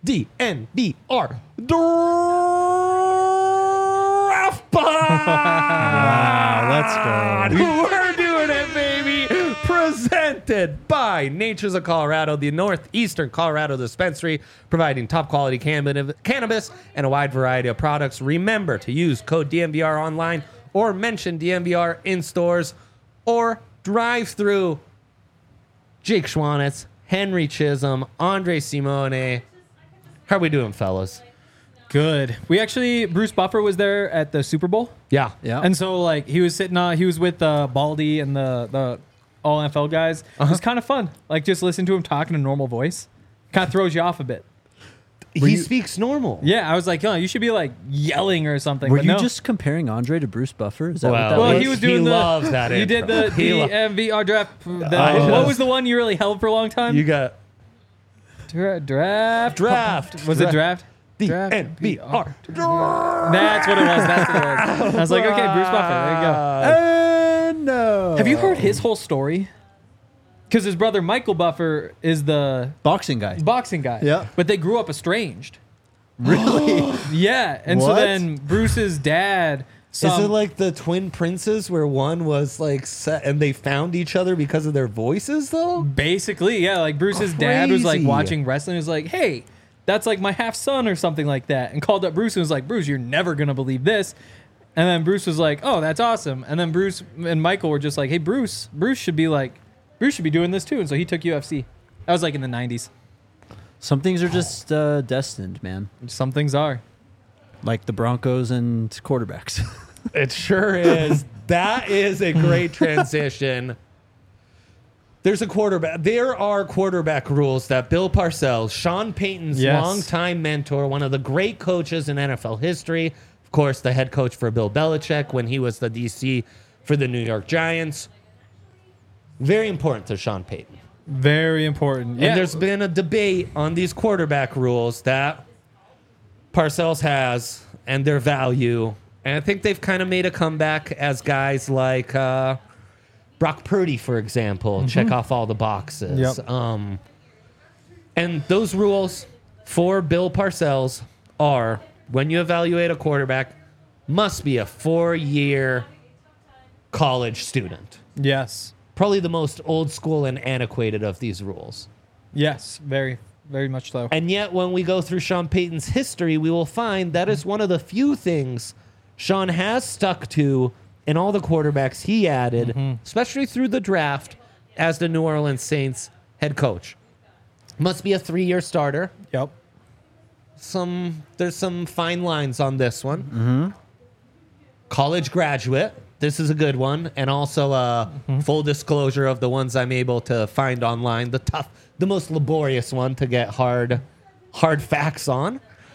DNVR Draft Pod. Wow, let's go. We're doing it, baby. Presented by Natures of Colorado, the Northeastern Colorado Dispensary, providing top quality cannabis and a wide variety of products. Remember to use code DNVR online or mention DNVR in stores or drive through. Jake Schwanitz, Henry Chisholm, Andre Simone. How are we doing, fellas? Good. Bruce Buffer was there at the Super Bowl. Yeah. And so, like, he was he was with Baldy and the all NFL guys. It was kind of fun. Like, just listen to him talk in a normal voice. Kind of throws you off a bit. He speaks normal. Yeah, I was like, oh, you should be, like, yelling or something. Were but you no. just comparing Andre to Bruce Buffer? Is that what that Well, was? he was doing loves that You did the intro. DMVR draft. I What was the one you really held for a long time? You got Draft. Was Draft. it draft? DNVR. That's what it was. I was like, okay, Bruce Buffer. There you go. No. Have you heard his whole story? Because his brother Michael Buffer is the Boxing guy. boxing guy. Yeah. But they grew up estranged. Really? Yeah. And so What? then Bruce's dad saw Is it like the twin princes where one was like set and they found each other because of their voices though? basically, yeah, like Bruce's dad was like Crazy. watching wrestling, was like, hey, that's like my half son or something like that, and called up Bruce and was like, Bruce, you're never gonna believe this. And then Bruce was like, oh, that's awesome. And then Bruce and Michael were just like, hey, Bruce should be doing this too. And so he took UFC. That was like in the 90s. Some things are just destined, man. Some things are. Like the Broncos and quarterbacks. It sure is. That is a great transition. There are quarterback rules that Bill Parcells, Sean Payton's Yes. longtime mentor, one of the great coaches in NFL history, of course, the head coach for Bill Belichick when he was the DC for the New York Giants. Very important to Sean Payton. Very important. Yeah. And there's been a debate on these quarterback rules that Parcells has and their value. And I think they've kind of made a comeback as guys like Brock Purdy, for example, check off all the boxes. Yep. And those rules for Bill Parcells are when you evaluate a quarterback, must be a 4-year college student. Yes. Probably the most old school and antiquated of these rules. Yes. Very, very much so. And yet, when we go through Sean Payton's history, we will find that is one of the few things Sean has stuck to in all the quarterbacks he added, especially through the draft as the New Orleans Saints head coach. Must be a 3-year starter. Yep. There's some fine lines on this one. College graduate. This is a good one. And also full disclosure of the ones I'm able to find online. The most laborious one to get hard facts on.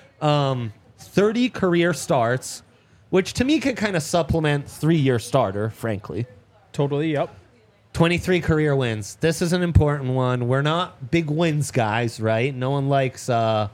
30 career starts, which to me can kind of supplement 3-year starter, frankly. Totally. Yep. 23 career wins. This is an important one. We're not big wins guys, right? No one likes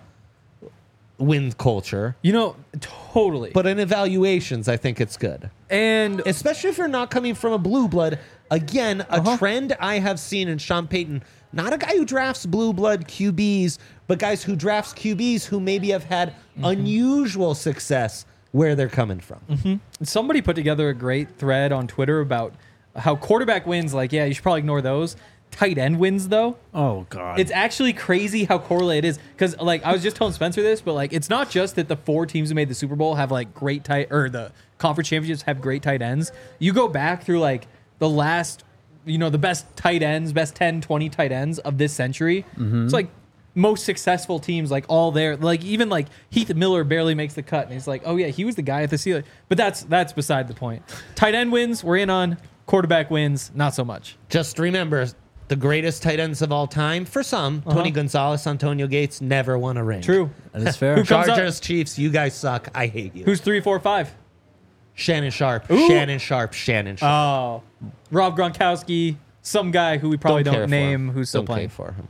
win culture. You know, totally. But in evaluations, I think it's good. And Especially if you're not coming from a blue blood. Again, a trend I have seen in Sean Payton, not a guy who drafts blue blood QBs, but guys who drafts QBs who maybe have had unusual success where they're coming from. somebody put together a great thread on Twitter about how quarterback wins, like, yeah, you should probably ignore those. Tight end wins, though. Oh, God. It's actually crazy how correlated it is. Because, like, I was just telling Spencer this, but, like, it's not just that the 4 teams who made the Super Bowl have, like, the conference championships have great tight ends. You go back through, like, the last, the best tight ends, best 10, 20 tight ends of this century. It's, like, most successful teams, like, all there. Like, even, like, Heath Miller barely makes the cut. And he's like, oh, yeah, he was the guy at the ceiling. But that's beside the point. Tight end wins, we're in on. Quarterback wins, not so much. Just remember, the greatest tight ends of all time, for some, Tony Gonzalez, Antonio Gates, never won a ring. True. That is fair. Who comes up? Chargers, Chiefs, you guys suck. I hate you. Who's 3, 4, 5? Shannon Sharp. Ooh. Shannon Sharp. Oh, Rob Gronkowski, some guy who we probably care don't for name him. who's still Don't playing. care for him.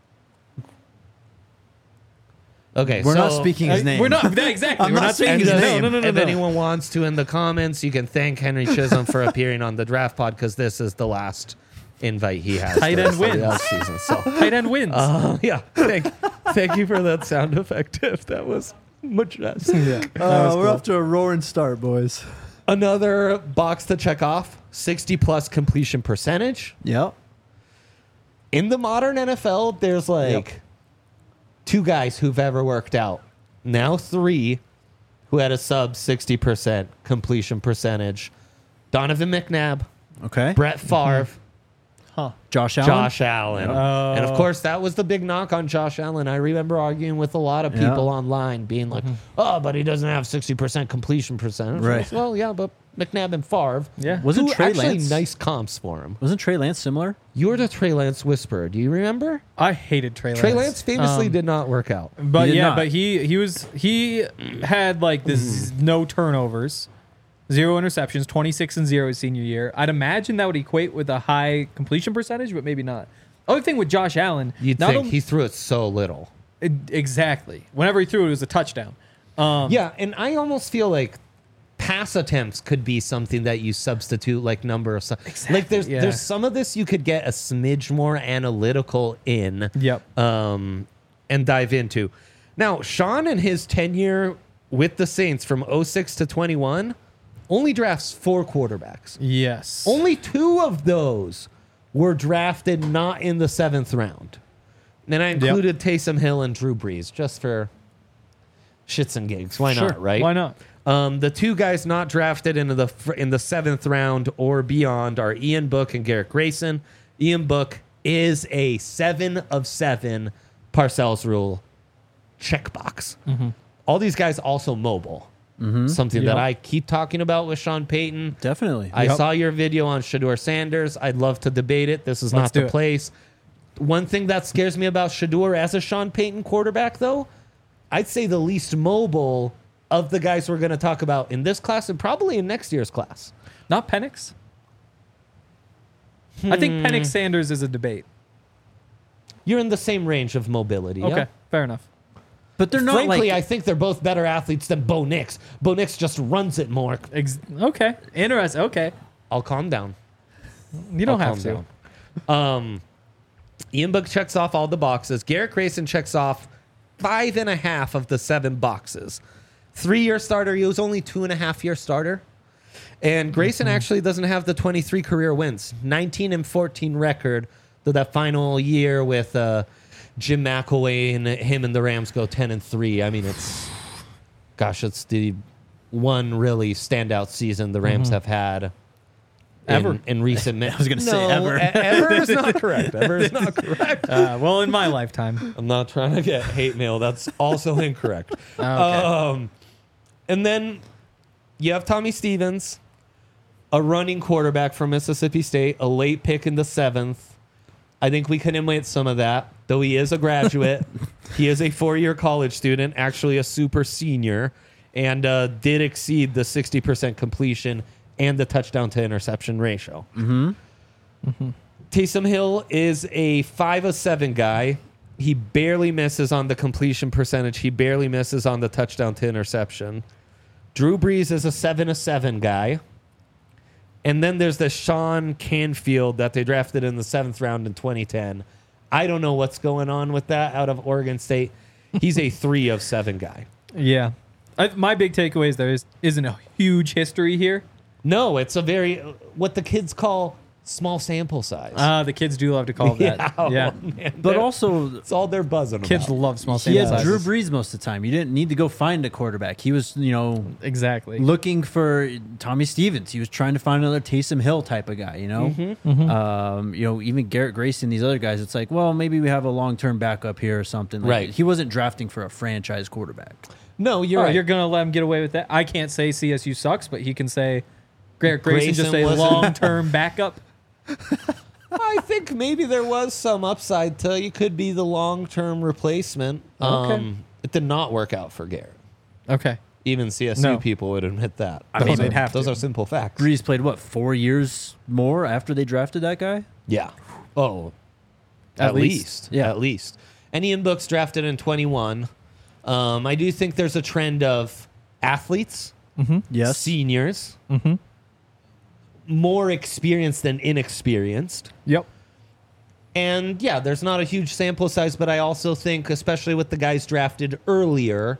Okay, We're not speaking his name. We're not exactly. I'm We're not not saying speaking his his name. name. No. If anyone wants to in the comments, you can thank Henry Chisholm for appearing on the Draft Pod because this is the last invite he has. Tight for end the wins. season. So, Tight end wins. yeah, thank Thank you for that sound effect, Tiff. That was majestic. Yeah. We're off to a roaring start, boys. Another box to check off, 60-plus completion percentage. Yep. In the modern NFL, there's like 2 guys who've ever worked out. Now 3 who had a sub 60% completion percentage. Donovan McNabb, Okay. Brett Favre, Josh Allen. Josh Allen. And of course, that was the big knock on Josh Allen. I remember arguing with a lot of people online being like, oh, but he doesn't have 60% completion percentage. Right. Well, yeah, but McNabb and Favre. Yeah. Wasn't Who Trey actually Lance nice comps for him. Wasn't Trey Lance similar? You were the Trey Lance whisperer. Do you remember? I hated Trey Lance. Trey Lance famously did not work out. But He did yeah, not. but he had like this no turnovers, 0 interceptions, 26-0 his senior year. I'd imagine that would equate with a high completion percentage, but maybe not. Other thing with Josh Allen, You'd not think only- he threw it so little. exactly. Whenever he threw it was a touchdown. Yeah, and I almost feel like pass attempts could be something that you substitute like number of like yeah. there's some of this you could get a smidge more analytical in Yep. and dive into. Now, Sean in his tenure with the Saints from 06 to 21 only drafts 4 quarterbacks. Yes. Only 2 of those were drafted not in the 7th round. And I included Taysom Hill and Drew Brees just for shits and gigs. Why not, right? Why not? The 2 guys not drafted in the 7th round or beyond are Ian Book and Garrett Grayson. Ian Book is a 7 of 7 Parcells rule checkbox. All these guys also mobile. Something that I keep talking about with Sean Payton. Definitely. I saw your video on Shador Sanders. I'd love to debate it. This is Let's not do the it. place. One thing that scares me about Shador as a Sean Payton quarterback, though, I'd say the least mobile of the guys we're going to talk about in this class and probably in next year's class. Not Penix. I think Penix Sanders is a debate. You're in the same range of mobility. Okay, Yeah? fair enough. But they're not Frankly, like I think they're both better athletes than Bo Nix. Bo Nix just runs it more. Okay, interesting. Okay, I'll calm down. you don't I'll have calm to. down. Ian Book checks off all the boxes. Garrett Grayson checks off 5.5 of the 7 boxes. 3-year starter. He was only 2.5-year starter. And Grayson actually doesn't have the 23 career wins. 19-14 record. Though that final year with Jim McElway and him and the Rams go 10-3. I mean, it's the one really standout season the Rams have had. Ever. In recent minutes. I was gonna say ever. Ever is not correct. Ever is not correct. Well, in my lifetime. I'm not trying to get hate mail. That's also incorrect. Okay. And then you have Tommy Stevens, a running quarterback from Mississippi State, a late pick in the 7th. I think we can emulate some of that, though he is a graduate. He is a 4-year college student, actually a super senior, and did exceed the 60% completion and the touchdown to interception ratio. Taysom Hill is a 5 of 7 guy. He barely misses on the completion percentage. He barely misses on the touchdown to interception. Drew Brees is a 7 of 7 guy. And then there's the Sean Canfield that they drafted in the 7th round in 2010. I don't know what's going on with that out of Oregon State. He's a 3 of 7 guy. Yeah. My big takeaway is there isn't a huge history here. No, it's a very, what the kids call small sample size. The kids do love to call it that. Yeah. Man, But they're- also, it's all they're buzzing Kids about. love small he sample had sizes. Drew Brees most of the time. You didn't need to go find a quarterback. He was, Exactly. looking for Tommy Stevens. He was trying to find another Taysom Hill type of guy, even Garrett Grayson, these other guys. It's like, well, maybe we have a long-term backup here or something. Like, Right. He wasn't drafting for a franchise quarterback. No, you're right. You're going to let him get away with that? I can't say CSU sucks, but he can say Garrett Grayson just a wasn't- long-term backup. I think maybe there was some upside to you could be the long-term replacement. Okay. It did not work out for Garrett. Okay. Even CSU No. people would admit that. I mean, they'd have those to. are simple facts. Brees played, 4 years more after they drafted that guy? Yeah. Oh, At at least. least. Yeah. At least. And Ian Book's drafted in 21. I do think there's a trend of athletes, Yes. seniors, more experienced than inexperienced. Yep. And yeah, there's not a huge sample size, but I also think, especially with the guys drafted earlier,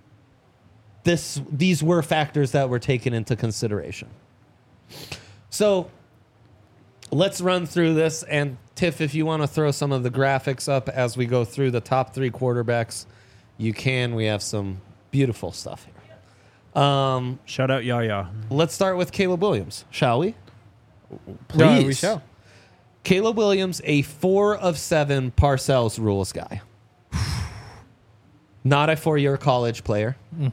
these were factors that were taken into consideration. So let's run through this. And Tiff, if you want to throw some of the graphics up as we go through the top 3 quarterbacks, you can. We have some beautiful stuff here. Shout out Yaya. Let's start with Caleb Williams, shall we? No, we shall. Caleb Williams, a 4 of 7 Parcells rules guy. Not a 4-year college player.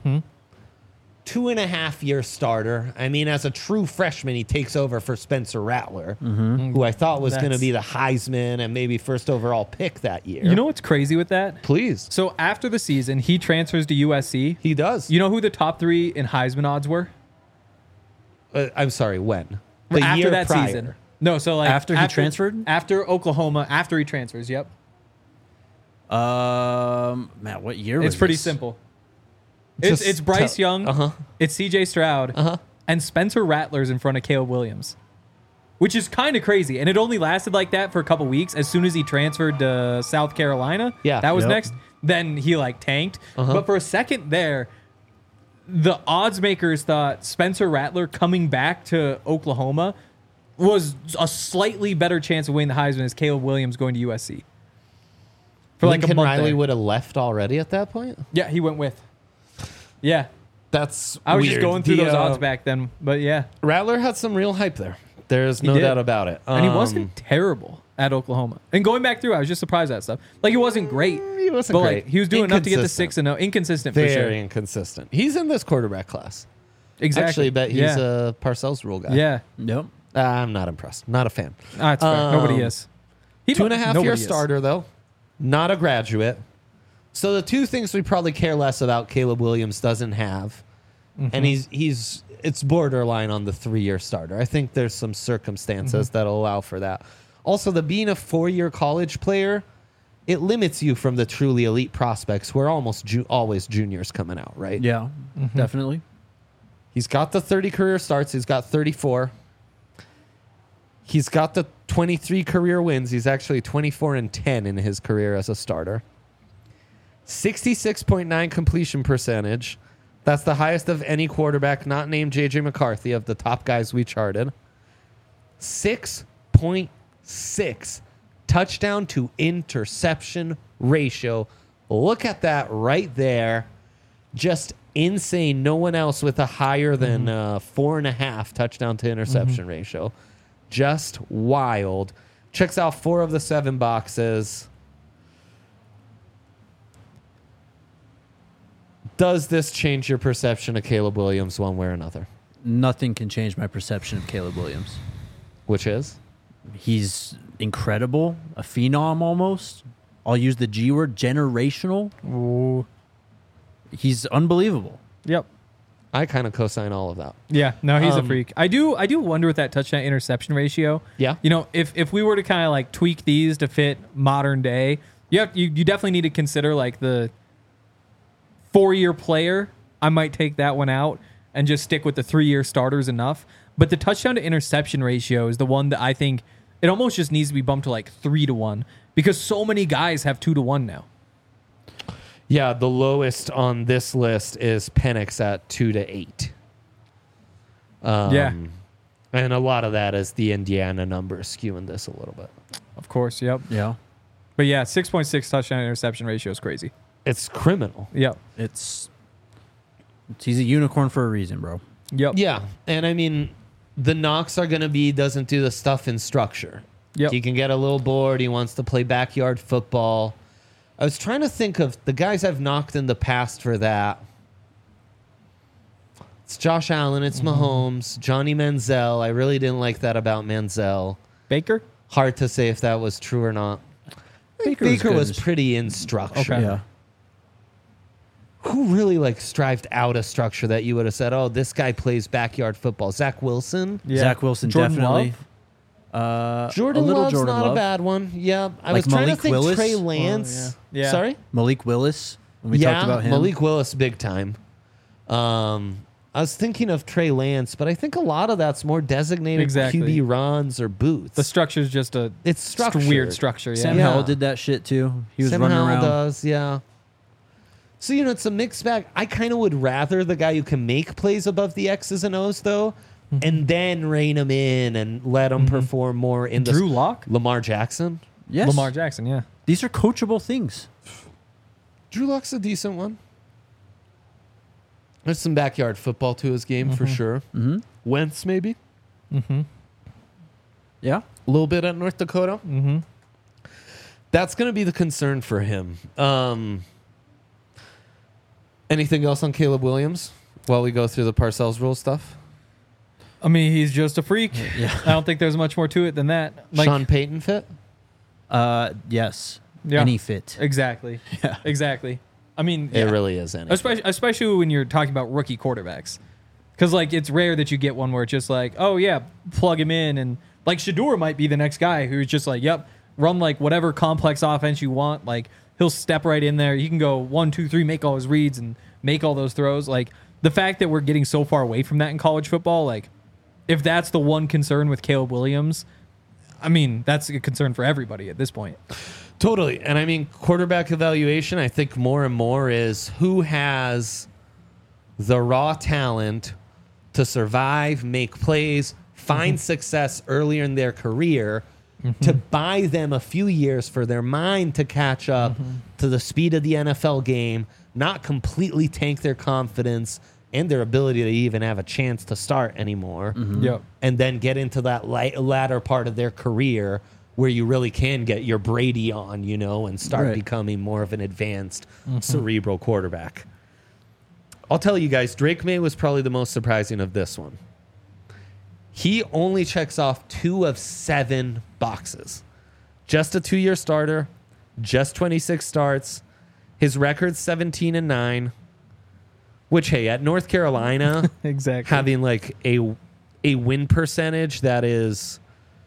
2.5-year starter. I mean, as a true freshman, he takes over for Spencer Rattler, who I thought was going to be the Heisman and maybe first overall pick that year. You know what's crazy with that? Please. So after the season, he transfers to USC. He does. You know who the top 3 in Heisman odds were? I'm sorry, when? After year that prior. season. No, so like After he transferred? After Oklahoma, after he transfers, yep. Matt, what year was It's pretty this? simple. Just It's Bryce tell- Young, it's CJ Stroud, and Spencer Rattler's in front of Caleb Williams, which is kind of crazy. And it only lasted like that for a couple weeks. As soon as he transferred to South Carolina, Yeah. that was Yep. next. Then he like tanked. But for a second there, the odds makers thought Spencer Rattler coming back to Oklahoma was a slightly better chance of winning the Heisman as Caleb Williams going to USC. For like a Lincoln month Riley there. would have left already at that point? Yeah, he went with. Yeah. That's I was weird. just going through The, those odds back then, but yeah. Rattler had some real hype there. There's no did. doubt about it. And he wasn't terrible at Oklahoma. And going back through, I was just surprised at that stuff. Like, he wasn't great. He wasn't but great. Like, he was doing enough to get to Inconsistent. 6-0. Inconsistent for Very sure. inconsistent. He's in this quarterback class. Exactly. Actually, bet he's yeah. a Parcells rule guy. Yeah. Yep. I'm not impressed. Not a fan. That's fair. Nobody is. 2.5 nobody year is. starter, though. Not a graduate. So the two things we probably care less about Caleb Williams doesn't have, and it's borderline on the 3-year starter. I think there's some circumstances that'll allow for that. Also, being a 4-year college player, it limits you from the truly elite prospects who are almost always juniors coming out, right? Yeah, definitely. He's got the 30 career starts. He's got 34. He's got the 23 career wins. He's actually 24-10 in his career as a starter. 66.9 completion percentage. That's the highest of any quarterback not named J.J. McCarthy of the top guys we charted. 6.6 touchdown to interception ratio. Look at that right there. Just insane. No one else with a higher than 4.5 touchdown to interception ratio. Just wild. Checks out 4 of the 7 boxes. Does this change your perception of Caleb Williams one way or another? Nothing can change my perception of Caleb Williams. Which is? He's incredible, a phenom almost. I'll use the G word, generational. Ooh. He's unbelievable. Yep. I kind of co-sign all of that. Yeah. No, he's a freak. I do wonder with that touchdown interception ratio. Yeah. You know, if we were to kind of like tweak these to fit modern day, you definitely need to consider like the 4-year player. I might take that one out and just stick with the 3-year starters enough. But the touchdown to interception ratio is the one that I think it almost just needs to be bumped to like 3-1 because so many guys have 2-1 now. Yeah, the lowest on this list is Penix at 2-8. Yeah. And a lot of that is the Indiana numbers skewing this a little bit. Of course. Yep. Yeah. But yeah, 6.6 touchdown interception ratio is crazy. It's criminal. Yep. He's a unicorn for a reason, bro. Yep. Yeah, and I mean, the knocks are going to be doesn't do the stuff in structure. Yep. He can get a little bored. He wants to play backyard football. I was trying to think of the guys I've knocked in the past for that. It's Josh Allen. It's Mahomes. Johnny Manziel. I really didn't like that about Manziel. Baker? Hard to say if that was true or not. Baker Baker good. was pretty in structure. Okay. Yeah. Who really like strived out a structure that you would have said, oh, this guy plays backyard football? Zach Wilson? Yeah. Zach Wilson, Jordan definitely. Jordan a little Love's Jordan not Love. a bad one. Yeah, I Like was trying Malik to think Willis? Trey Lance. yeah. Yeah. Sorry? Malik Willis, when we talked about him. Malik Willis, big time. I was thinking of Trey Lance, but I think a lot of that's more designated Exactly. QB runs or boots. The structure is just a It's just a structured. weird structure. Yeah. Sam Yeah. Howell did that shit too. He was Sam running Howell around. does, yeah. So, it's a mixed bag. I kind of would rather the guy who can make plays above the X's and O's, though, and then rein him in and let him perform more in Drew Lock, Lamar Jackson. Yes. Lamar Jackson. Yeah. These are coachable things. Drew Lock's a decent one. There's some backyard football to his game for sure. Mm-hmm. Wentz, maybe. Yeah. A little bit at North Dakota. Mm-hmm. That's going to be the concern for him. Anything else on Caleb Williams while we go through the Parcells rule stuff? I mean, he's just a freak. Yeah. I don't think there's much more to it than that. Like, Sean Payton fit? Yes. Yeah. Any fit. exactly. Yeah. Exactly. I mean, It really is. especially when you're talking about rookie quarterbacks, because like it's rare that you get one where it's just like, oh yeah, plug him in, and like Shador might be the next guy who's just like, yep, run like whatever complex offense you want. Like he'll step right in there. He can go 1, 2, 3, make all his reads and make all those throws. Like the fact that we're getting so far away from that in college football, like if that's the one concern with Caleb Williams, I mean that's a concern for everybody at this point. Totally. And I mean, quarterback evaluation, I think more and more is who has the raw talent to survive, make plays, find success earlier in their career, to buy them a few years for their mind to catch up to the speed of the NFL game, not completely tank their confidence and their ability to even have a chance to start anymore, Yep. and then get into that latter part of their career where you really can get your Brady on, and start Right. becoming more of an advanced cerebral quarterback. I'll tell you guys, Drake May was probably the most surprising of this one. He only checks off 2 of 7 boxes. Just a 2-year starter, just 26 starts. His record's 17-9, which, hey, at North Carolina, Exactly. having like a win percentage that is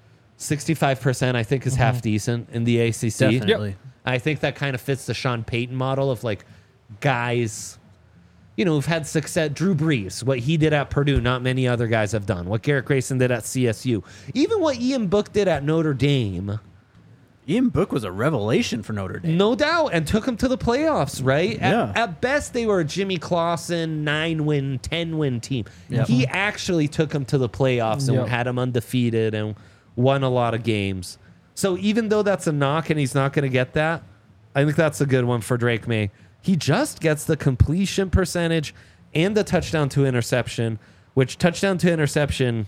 65%, I think is half decent in the ACC. Definitely. I think that kind of fits the Sean Payton model of like guys, who've had success. Drew Brees, what he did at Purdue, not many other guys have done. What Garrett Grayson did at CSU. Even what Ian Book did at Notre Dame. Ian Book was a revelation for Notre Dame. No doubt, and took them to the playoffs, right? Yeah. At best, they were a Jimmy Clausen 9-win, 10-win team. Yep. He actually took them to the playoffs and Yep. had them undefeated and won a lot of games. So even though that's a knock and he's not going to get that, I think that's a good one for Drake May. He just gets the completion percentage and the touchdown to interception, which touchdown to interception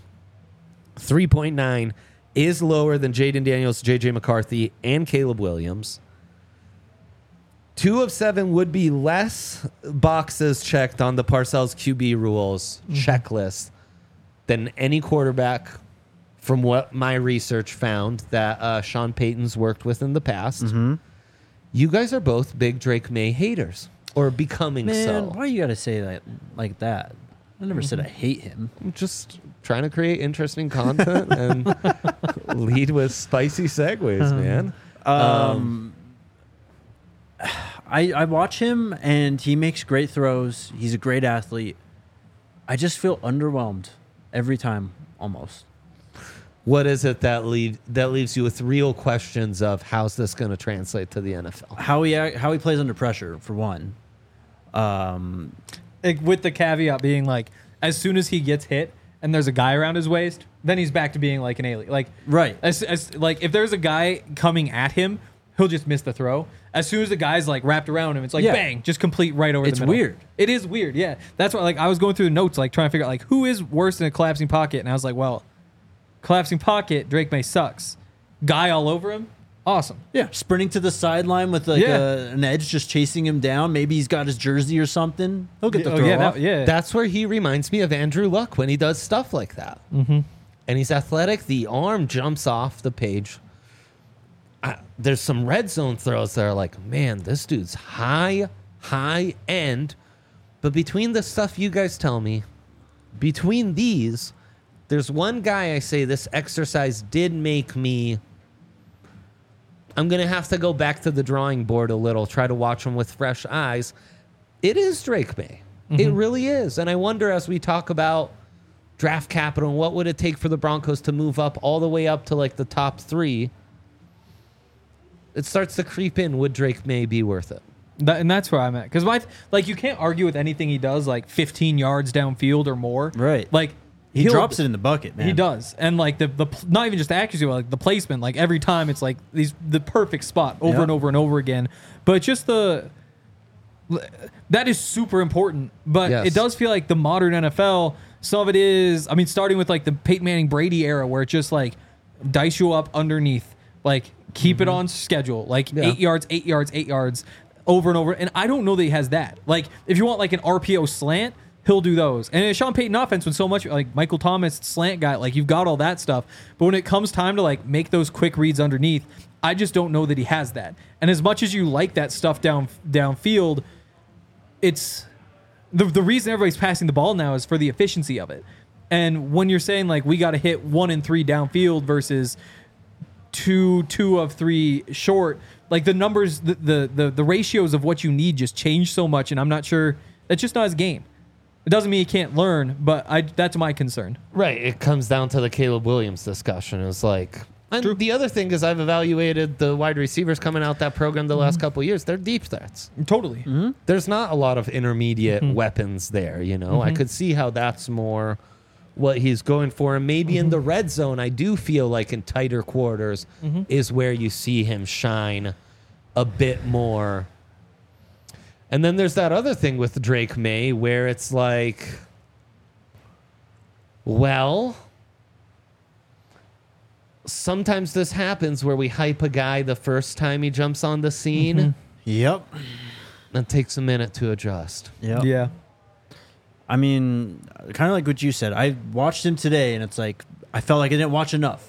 3.9 is lower than Jaden Daniels, JJ McCarthy, and Caleb Williams. 2 of 7 would be less boxes checked on the Parcells QB rules checklist than any quarterback from what my research found that Sean Payton's worked with in the past. You guys are both big Drake May haters, or becoming Man, so. why you gotta say that like that? I never said I hate him. I'm just trying to create interesting content and lead with spicy segues, man. I watch him and he makes great throws. He's a great athlete. I just feel underwhelmed every time, almost. What is it that leaves you with real questions of how's this going to translate to the NFL? How he plays under pressure, for one. With the caveat being like, as soon as he gets hit and there's a guy around his waist, then he's back to being like an alien. Like Right. as like if there's a guy coming at him, he'll just miss the throw. As soon as the guy's like wrapped around him, it's like Yeah. bang, just complete right over It's the middle. weird. It is weird, yeah. That's why like I was going through the notes like trying to figure out like who is worse than a collapsing pocket, and I was like, well, collapsing pocket, Drake May sucks. Guy all over him, awesome. Yeah, sprinting to the sideline with like Yeah. an edge just chasing him down. Maybe he's got his jersey or something. He'll get the Oh, throw yeah, off. yeah. That's where he reminds me of Andrew Luck when he does stuff like that. Mm-hmm. And he's athletic. The arm jumps off the page. There's some red zone throws that are like, man, this dude's high end. But between the stuff you guys tell me, between these, there's one guy I say this exercise did make me. I'm going to have to go back to the drawing board a little, try to watch him with fresh eyes. It is Drake May. It really is. And I wonder, as we talk about draft capital and what would it take for the Broncos to move up all the way up to like the top 3, it starts to creep in. Would Drake May be worth it? And that's where I'm at. Because like you can't argue with anything he does, like 15 yards downfield or more. Right. Like He drops it in the bucket, man. He does. And like the not even just the accuracy, but like the placement, like every time it's like the perfect spot over and over and over again. But just that is super important. But Yes. it does feel like the modern NFL, some of it is, I mean, starting with like the Peyton Manning Brady era where it's just like dice you up underneath, like keep it on schedule, like 8 yards, 8 yards, 8 yards over and over. And I don't know that he has that. Like if you want like an RPO slant, he'll do those. And in a Sean Payton offense, when so much like Michael Thomas slant guy, like you've got all that stuff. But when it comes time to like make those quick reads underneath, I just don't know that he has that. And as much as you like that stuff downfield, it's the reason everybody's passing the ball now is for the efficiency of it. And when you're saying like we got to hit 1 and 3 downfield versus two of 3 short, like the numbers, the ratios of what you need just change so much. And I'm not sure that's just not his game. It doesn't mean he can't learn, but that's my concern. Right. It comes down to the Caleb Williams discussion. It's like, and the other thing is I've evaluated the wide receivers coming out that program the last couple of years. They're deep threats. Totally. There's not a lot of intermediate weapons there, you know. I could see how that's more what he's going for. And maybe in the red zone, I do feel like in tighter quarters is where you see him shine a bit more. And then there's that other thing with Drake May where it's like, well, sometimes this happens where we hype a guy the first time he jumps on the scene. Yep. And it takes a minute to adjust. Yep. Yeah. I mean, kind of like what you said. I watched him today, and it's like I felt like I didn't watch enough.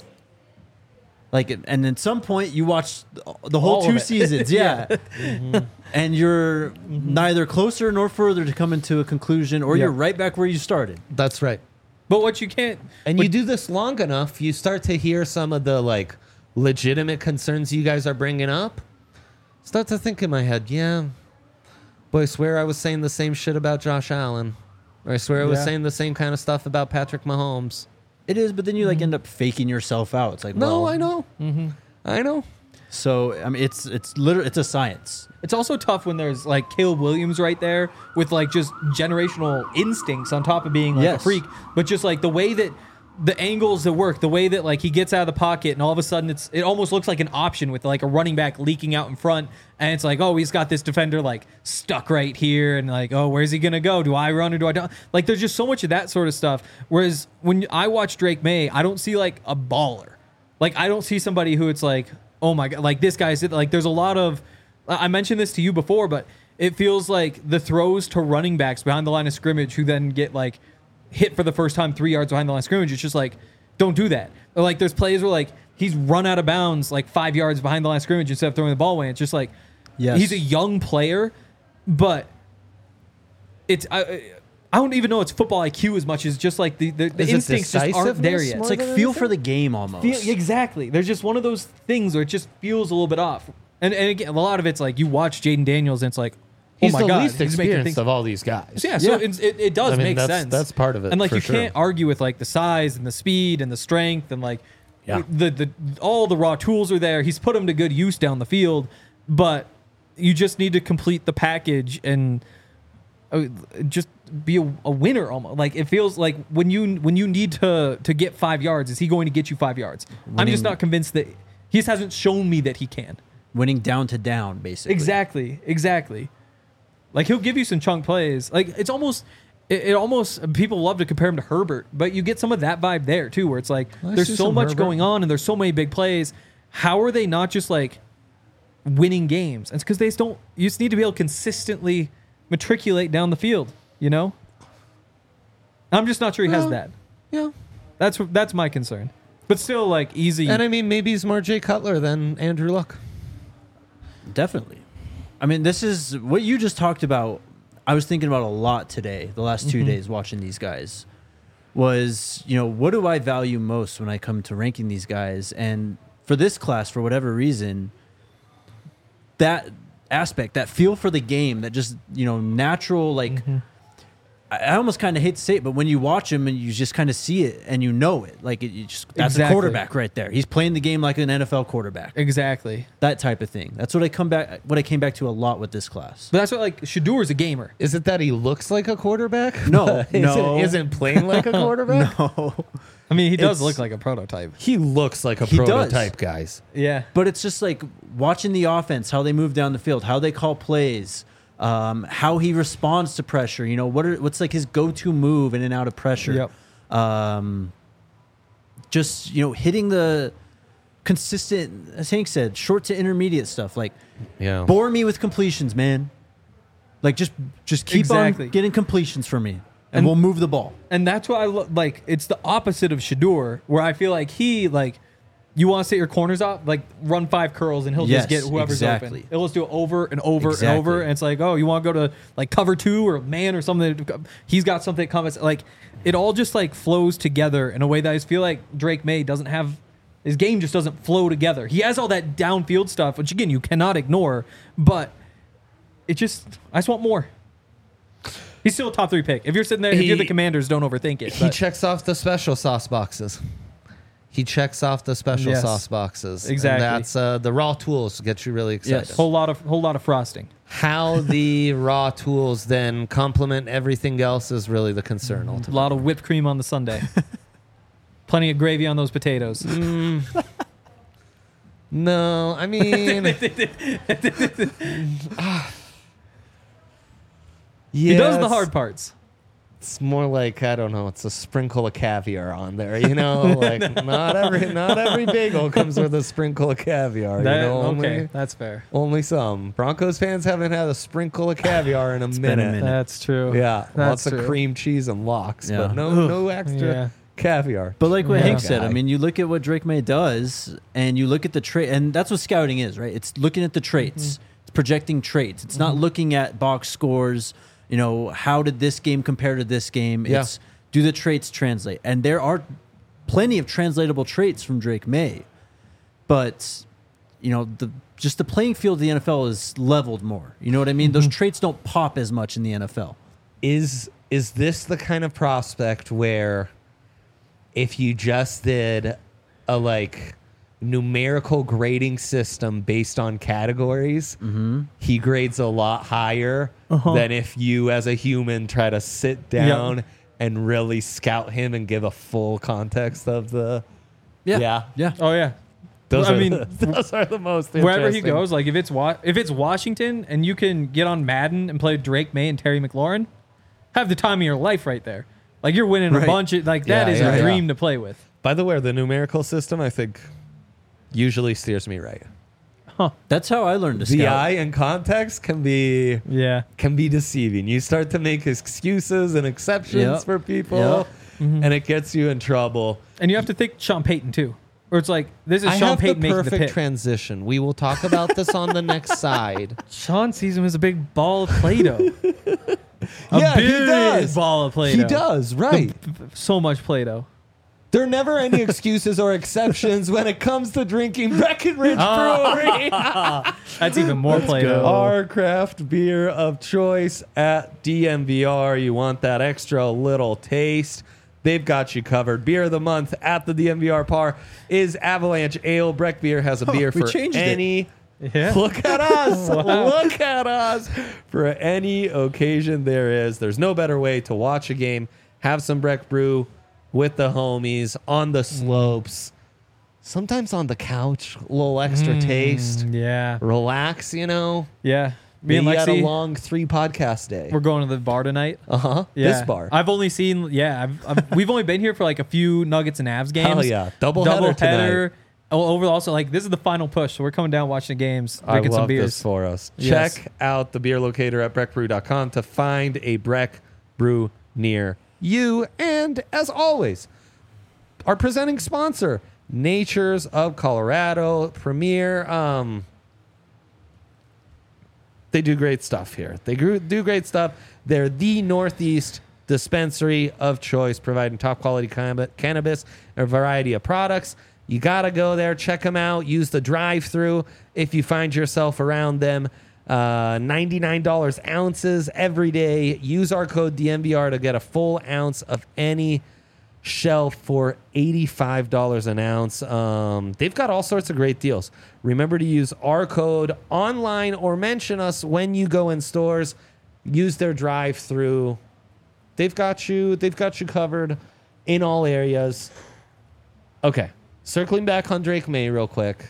Like, and at some point, you watch the whole All of 2 it. seasons, yeah. And you're neither closer nor further to coming to a conclusion, or you're right back where you started. That's right. But what you can't, And you do this long enough, you start to hear some of the like legitimate concerns you guys are bringing up. Start to think in my head, yeah, boy, I swear I was saying the same shit about Josh Allen. Or I swear I was Yeah. saying the same kind of stuff about Patrick Mahomes. It is, but then you like end up faking yourself out. It's like, No, well, I know. I know. So I mean, it's literally it's a science. it's also tough when there's like Caleb Williams right there with like just generational instincts on top of being like a Yes. freak. But just like the way that the angles that work, the way that like he gets out of the pocket and all of a sudden it almost looks like an option with like a running back leaking out in front. And it's like, oh, he's got this defender like stuck right here. And like, oh, where's he going to go? Do I run or do I don't? Like there's just so much of that sort of stuff. Whereas when I watch Drake May, I don't see like a baller. Like I don't see somebody who it's like, oh my God, like this guy's like, there's a lot of, I mentioned this to you before, but it feels like the throws to running backs behind the line of scrimmage who then get like hit for the first time 3 yards behind the line of scrimmage. It's just like, don't do that. Or like there's plays where like he's run out of bounds like 5 yards behind the line of scrimmage instead of throwing the ball away. It's just like, Yes. he's a young player, but it's, I don't even know it's football IQ as much as just like the Is it instincts just aren't there decisiveness yet. more It's like than feel for anything? the game almost. Exactly. There's just one of those things where it just feels a little bit off. And again, a lot of it's like you watch Jaden Daniels and it's like, oh He's my the God, least he's making experienced things. of all these guys. Yeah, so Yeah. it does I mean, make sense. that's part of it, And like for you sure. can't argue with like the size and the speed and the strength and like Yeah. the all the raw tools are there. He's put them to good use down the field, but you just need to complete the package and just be a winner almost. Like it feels like when you need to get 5 yards, is he going to get you 5 yards? I'm just not convinced that he just hasn't shown me that he can. Winning down to down, basically. Exactly. Like he'll give you some chunk plays. Like it's almost, it almost people love to compare him to Herbert, but you get some of that vibe there too, where it's like I there's see so some much Herbert. going on and there's so many big plays. How are they not just like winning games? And it's because they just don't. You just need to be able to consistently matriculate down the field. You know. I'm just not sure he has Well, that. Yeah. That's my concern. But still, like easy. And I mean, maybe he's more Jay Cutler than Andrew Luck. Definitely. I mean, this is what you just talked about. I was thinking about a lot today, the last 2 days watching these guys. Was, you know, what do I value most when I come to ranking these guys? And for this class, for whatever reason, that aspect, that feel for the game, that just, you know, natural, like I almost kind of hate to say it, but when you watch him and you just kind of see it and you know it, like that's a Exactly. quarterback right there. He's playing the game like an NFL quarterback. Exactly. That type of thing. That's what I came back to a lot with this class. But that's what like Shador is a gamer. Is it that he looks like a quarterback? No, but no. Isn't playing like a quarterback? No, I mean, he does It's- look like a prototype. He looks like a He does. prototype, guys. Yeah. but it's just like watching the offense, how they move down the field, how they call plays, how he responds to pressure. You know, what's like his go-to move in and out of pressure. Yep. Just hitting the consistent, as Hank said, short to intermediate stuff. Like Yeah. bore me with completions, man. Like just keep Exactly. on getting completions for me, and And- we'll move the ball. And that's what I like. It's the opposite of Shador, where I feel like you want to set your corners up, like run 5 curls and he'll Yes, just get whoever's exactly. open. He'll just do it over and over and Exactly. over. And it's like, oh, you want to go to like cover 2 or man or something. He's got something that comes. Like it all just like flows together in a way that I just feel like Drake May doesn't have. His game just doesn't flow together. He has all that downfield stuff, which again, you cannot ignore, but I just want more. He's still a top 3 pick. If you're sitting there, if you're the Commanders, don't overthink it. He but- checks off the special sauce boxes. He checks off the special Yes. sauce boxes. Exactly. And that's the raw tools get you really excited. Yes. whole lot of frosting. How the raw tools then complement everything else is really the concern A ultimately. lot of whipped cream on the sundae. Plenty of gravy on those potatoes. No, I mean, He does the yes, hard parts. It's more like, I don't know, it's a sprinkle of caviar on there, you know? Like not every bagel comes with a sprinkle of caviar, you know? Okay, that's fair. Only some. Broncos fans haven't had a sprinkle of caviar in a been a minute. minute. That's true. Yeah, That's lots of true. cream cheese and lox, Yeah. but no extra Yeah. caviar. But like what Yeah. Hank said, I Guy. mean, you look at what Drake May does, and you look at the trait, and that's what scouting is, right? It's looking at the traits, it's projecting traits. It's not looking at box scores. You know, how did this game compare to this game? Yeah. It's do the traits translate? And there are plenty of translatable traits from Drake May, but the playing field of the NFL is leveled more. You know what I mean? Those traits don't pop as much in the NFL. Is this the kind of prospect where if you just did a like numerical grading system based on categories, he grades a lot higher than if you as a human try to sit down and really scout him and give a full context of the yeah. Oh yeah. Those I are mean, those are the most wherever he interesting. goes, like if it's Washington and you can get on Madden and play Drake May and Terry McLaurin, have the time of your life right there. Like you're winning a Right. bunch of like that Yeah, is yeah, a yeah. dream to play with. By the way, the numerical system I think usually steers me right. That's how I learned to The scout. eye and context can be Yeah. deceiving. You start to make excuses and exceptions Yep. for people, Yep. and it gets you in trouble. And you have to think Sean Payton too. Or it's like this is I Sean have the Payton making the perfect pick. transition. We will talk about this on the next side. Sean sees him as a big ball of Play-Doh. Yeah, he big does. ball of Play-Doh. He does, right. So much Play-Doh. There are never any excuses or exceptions when it comes to drinking Breckenridge Brewery. That's even more Play-Doh. Our craft beer of choice at DMVR. You want that extra little taste? They've got you covered. Beer of the month at the DMVR Par is Avalanche Ale. Breck Beer has a beer we for changed it. any. Yeah. Look at us. Look at us. For any occasion there is. There's no better way to watch a game. Have some Breck Brew with the homies on the slopes. Sometimes on the couch. A little extra taste. Yeah. Relax, you know. Yeah. Me and Maybe had a Lexi, long 3 podcast day. we're going to the bar tonight. Uh-huh. Yeah. This bar. I've only seen, we've only been here for like a few Nuggets and Avs games. Hell yeah. Double header tonight. Over also, like, this is the final push. So we're coming down watching the games, I drinking love some beers. this for us. Yes. Check out the beer locator at breckbrew.com to find a Breck Brew near you. And as always, our presenting sponsor, Natures of Colorado, Premier. They do great stuff here. They do great stuff. They're the Northeast dispensary of choice, providing top quality cannabis and a variety of products. You got to go there, check them out, use the drive-through if you find yourself around them. $99 ounces every day. Use our code DNVR to get a full ounce of any shelf for $85 an ounce. They've got all sorts of great deals. Remember to use our code online or mention us when you go in stores. Use their drive-through. They've got you covered in all areas. Okay, circling back on Drake May real quick.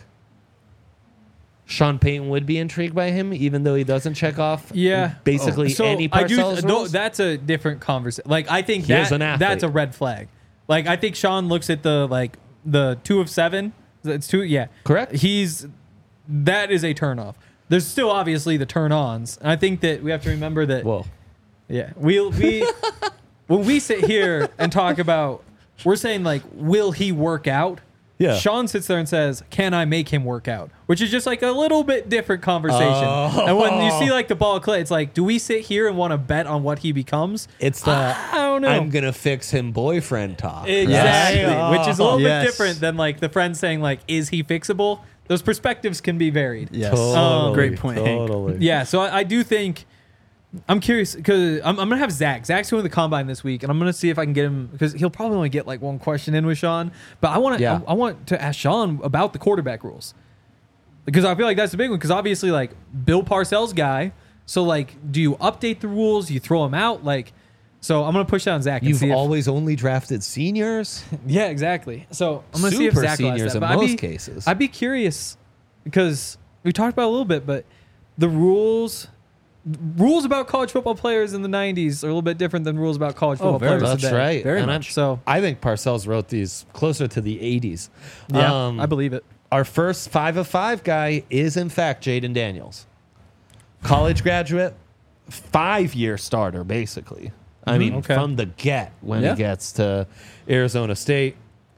Sean Payton would be intrigued by him, even though he doesn't check off basically any Parcells rules. That's a different conversation. Like, I think He is an athlete. that's a red flag. Like, I think Sean looks at the 2 of 7. It's 2, yeah. Correct. That is a turn off. There's still obviously the turn ons. And I think that we have to remember that. Whoa. Yeah. We when we sit here and talk about, we're saying like, will he work out? Yeah. Sean sits there and says, can I make him work out? Which is just like a little bit different conversation. And when you see like the ball of clay, it's like, do we sit here and want to bet on what he becomes? It's the I don't know. I'm gonna fix him boyfriend talk. Exactly. Right? Which is a little Yes. bit different than like the friend saying like, is he fixable? Those perspectives can be varied. Yes. Totally, Great point, Hank. Totally. Yeah, so I do think I'm curious because I'm gonna have Zach. Zach's going to the combine this week, and I'm gonna see if I can get him because he'll probably only get like one question in with Sean. But I want to I want to ask Sean about the quarterback rules because I feel like that's the big one. Because obviously, like Bill Parcells guy. So like, do you update the rules? You throw them out? Like, so I'm gonna push that on Zach. And You've see if, always only drafted seniors. yeah, exactly. So I'm gonna see if Super Zach will ask seniors that. in But most cases. I'd be curious because we talked about it a little bit, but the rules about college football players in the 90s are a little bit different than rules about college football very players That's today. right. Very and much. So I think Parcells wrote these closer to the 80s. yeah, I believe it. Our first 5 of 5 guy is in fact Jaden Daniels, college graduate, 5-year starter basically. I mean, Okay. from the get when Yeah. he gets to Arizona State,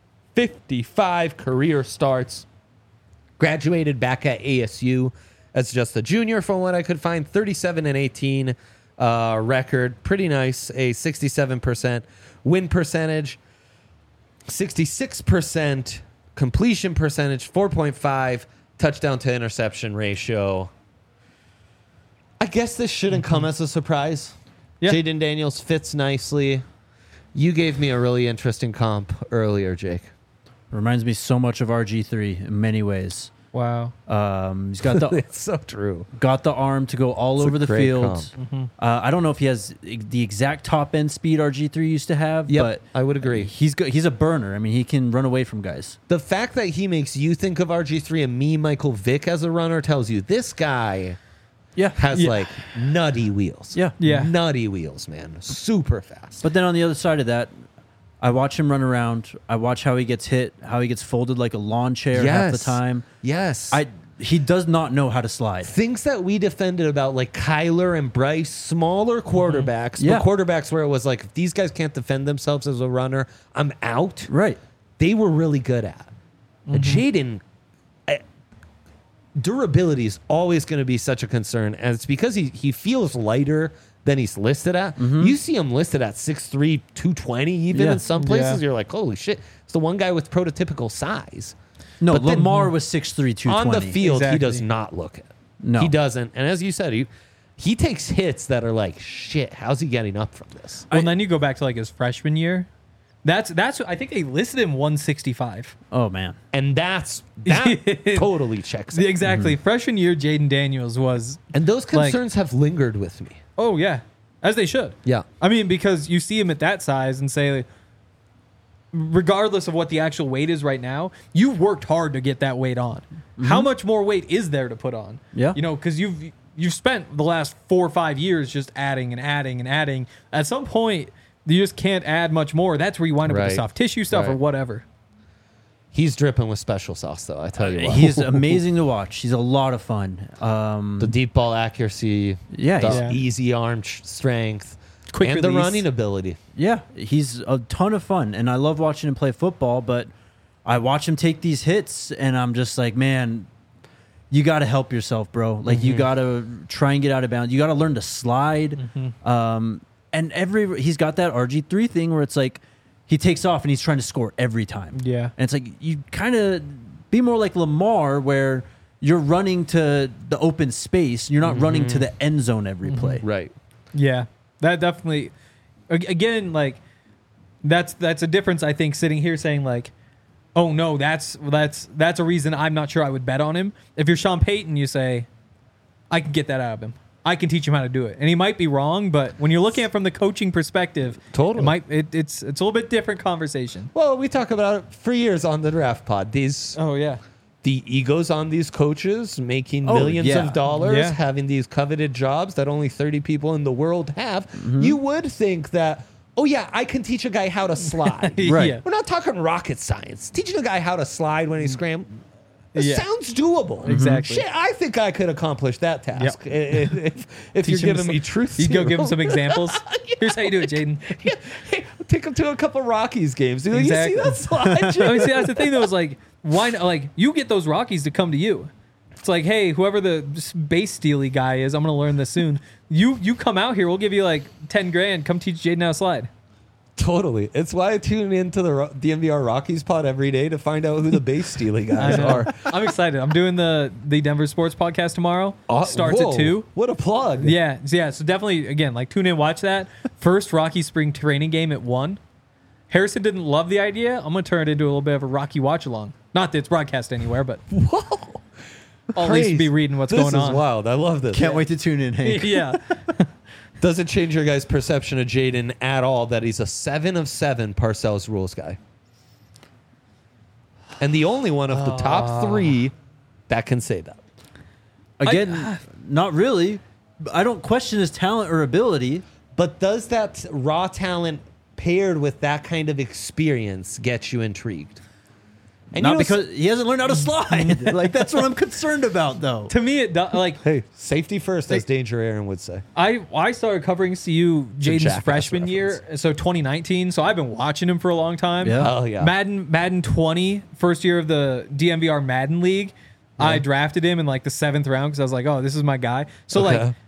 55 career starts. Graduated back at ASU as just a junior, from what I could find. 37-18 record, pretty nice. A 67% win percentage, 66% completion percentage, 4.5 touchdown to interception ratio. I guess this shouldn't come as a surprise. Yeah. Jaden Daniels fits nicely. You gave me a really interesting comp earlier, Jake. Reminds me so much of RG3 in many ways. Wow. He's got the It's so true. got the arm to go all It's a over the great field. I don't know if he has the exact top end speed RG3 used to have, Yep, but I would agree. he's a burner. I mean, he can run away from guys. The fact that he makes you think of RG3 and me, Michael Vick, as a runner tells you this guy Yeah, has Yeah. like nutty wheels. Yeah. Yeah. Nutty wheels, man. Super fast. But then on the other side of that, I watch him run around. I watch how he gets hit, how he gets folded like a lawn chair half the time. Yes. He does not know how to slide. Things that we defended about like Kyler and Bryce, smaller quarterbacks, Yeah. but quarterbacks where it was like, if these guys can't defend themselves as a runner, I'm out. Right. They were really good at. Jaden, durability is always going to be such a concern, and it's because he feels lighter than he's listed at. You see him listed at 6'3", 220 even Yeah. in some places. Yeah. You're like, holy shit. It's the one guy with prototypical size. No, But then- Lamar was 6'3", 220. On the field, he Exactly. does not look it. No. He doesn't. And as you said, he takes hits that are like, shit, how's he getting up from this? Well, and then you go back to like his freshman year. That's I think they listed him 165. Oh man. And that totally checks out. Exactly. Freshman year, Jaden Daniels was. And those Like- concerns have lingered with me. Oh yeah, as they should. Yeah. I mean, because you see him at that size and say, regardless of what the actual weight is right now, you worked hard to get that weight on. How much more weight is there to put on? Yeah. You know, because you've spent the last 4 or 5 years just adding and adding and adding. At some point, you just can't add much more. That's where you wind up with Right. the soft tissue stuff or Right. whatever. He's dripping with special sauce, though, I tell you what. He's amazing to watch. He's a lot of fun. The deep ball accuracy, Yeah, the he's- easy arm strength, Quick and the release. running ability. Yeah, he's a ton of fun, and I love watching him play football. But I watch him take these hits, and I'm just like, man, you got to help yourself, bro. Like you got to try and get out of bounds. You got to learn to slide. And he's got that RG3 thing where it's like he takes off and he's trying to score every time. Yeah. and it's like you kind of be more like Lamar, where you're running to the open space. You're not running to the end zone every play. Right. Yeah, that definitely. Again, like that's a difference. I think sitting here saying like, oh no, that's a reason I'm not sure I would bet on him. If you're Sean Payton, you say, I can get that out of him. I can teach him how to do it, and he might be wrong, but when you're looking at it from the coaching perspective, Totally. it's a little bit different conversation. Well, we talk about it for years on the Draft Pod. Oh yeah, The egos on these coaches making Oh, millions yeah. of dollars, Yeah. having these coveted jobs that only 30 people in the world have. You would think that, oh yeah, I can teach a guy how to slide. Right. Yeah. We're not talking rocket science. Teaching a guy how to slide when he's scrambling. It Yeah. sounds doable. Exactly. Shit, I think I could accomplish that task if you're Teach him giving some- me truth. You go give him serum. some examples. Here's how you do it, Jaden. Yeah. Hey, take him to a couple Rockies games. You Exactly. see that slide? I mean, see, that's the thing though. Is like, why not? Like, you get those Rockies to come to you. It's like, hey, whoever the base steely guy is, I'm gonna learn this soon. You come out here, we'll give you like 10 grand. Come teach Jaden how to slide. Totally. It's why I tune into the DNVR Rockies pod every day to find out who the base stealing I guys know. are. I'm excited. I'm doing the Denver Sports Podcast tomorrow. Starts Whoa, at 2. What a plug. Yeah. So definitely, again, like tune in, watch that. First Rocky spring training game at 1. Harrison didn't love the idea. I'm gonna turn it into a little bit of a Rocky watch along. Not that it's broadcast anywhere, but Whoa. I'll at least be reading what's this going on. This is wild. I love this. Can't wait to tune in, Hank. Yeah. Doesn't change your guys' perception of Jaden at all that he's a 7 of 7 Parcells rules guy. And the only one of the top 3 that can say that. Again, not really. I don't question his talent or ability. But does that raw talent paired with that kind of experience get you intrigued? And Not you know, because he hasn't learned how to slide. Like, that's what I'm concerned about, though. To me, it does. Like, hey, safety first, as Danger Aaron would say. I started covering CU Jaden's Jackass freshman reference. year, so 2019. So I've been watching him for a long time. Yeah. Oh, yeah. Madden 20, first year of the DMVR Madden League. I drafted him in like the 7th round because I was like, oh, this is my guy. So Okay. like,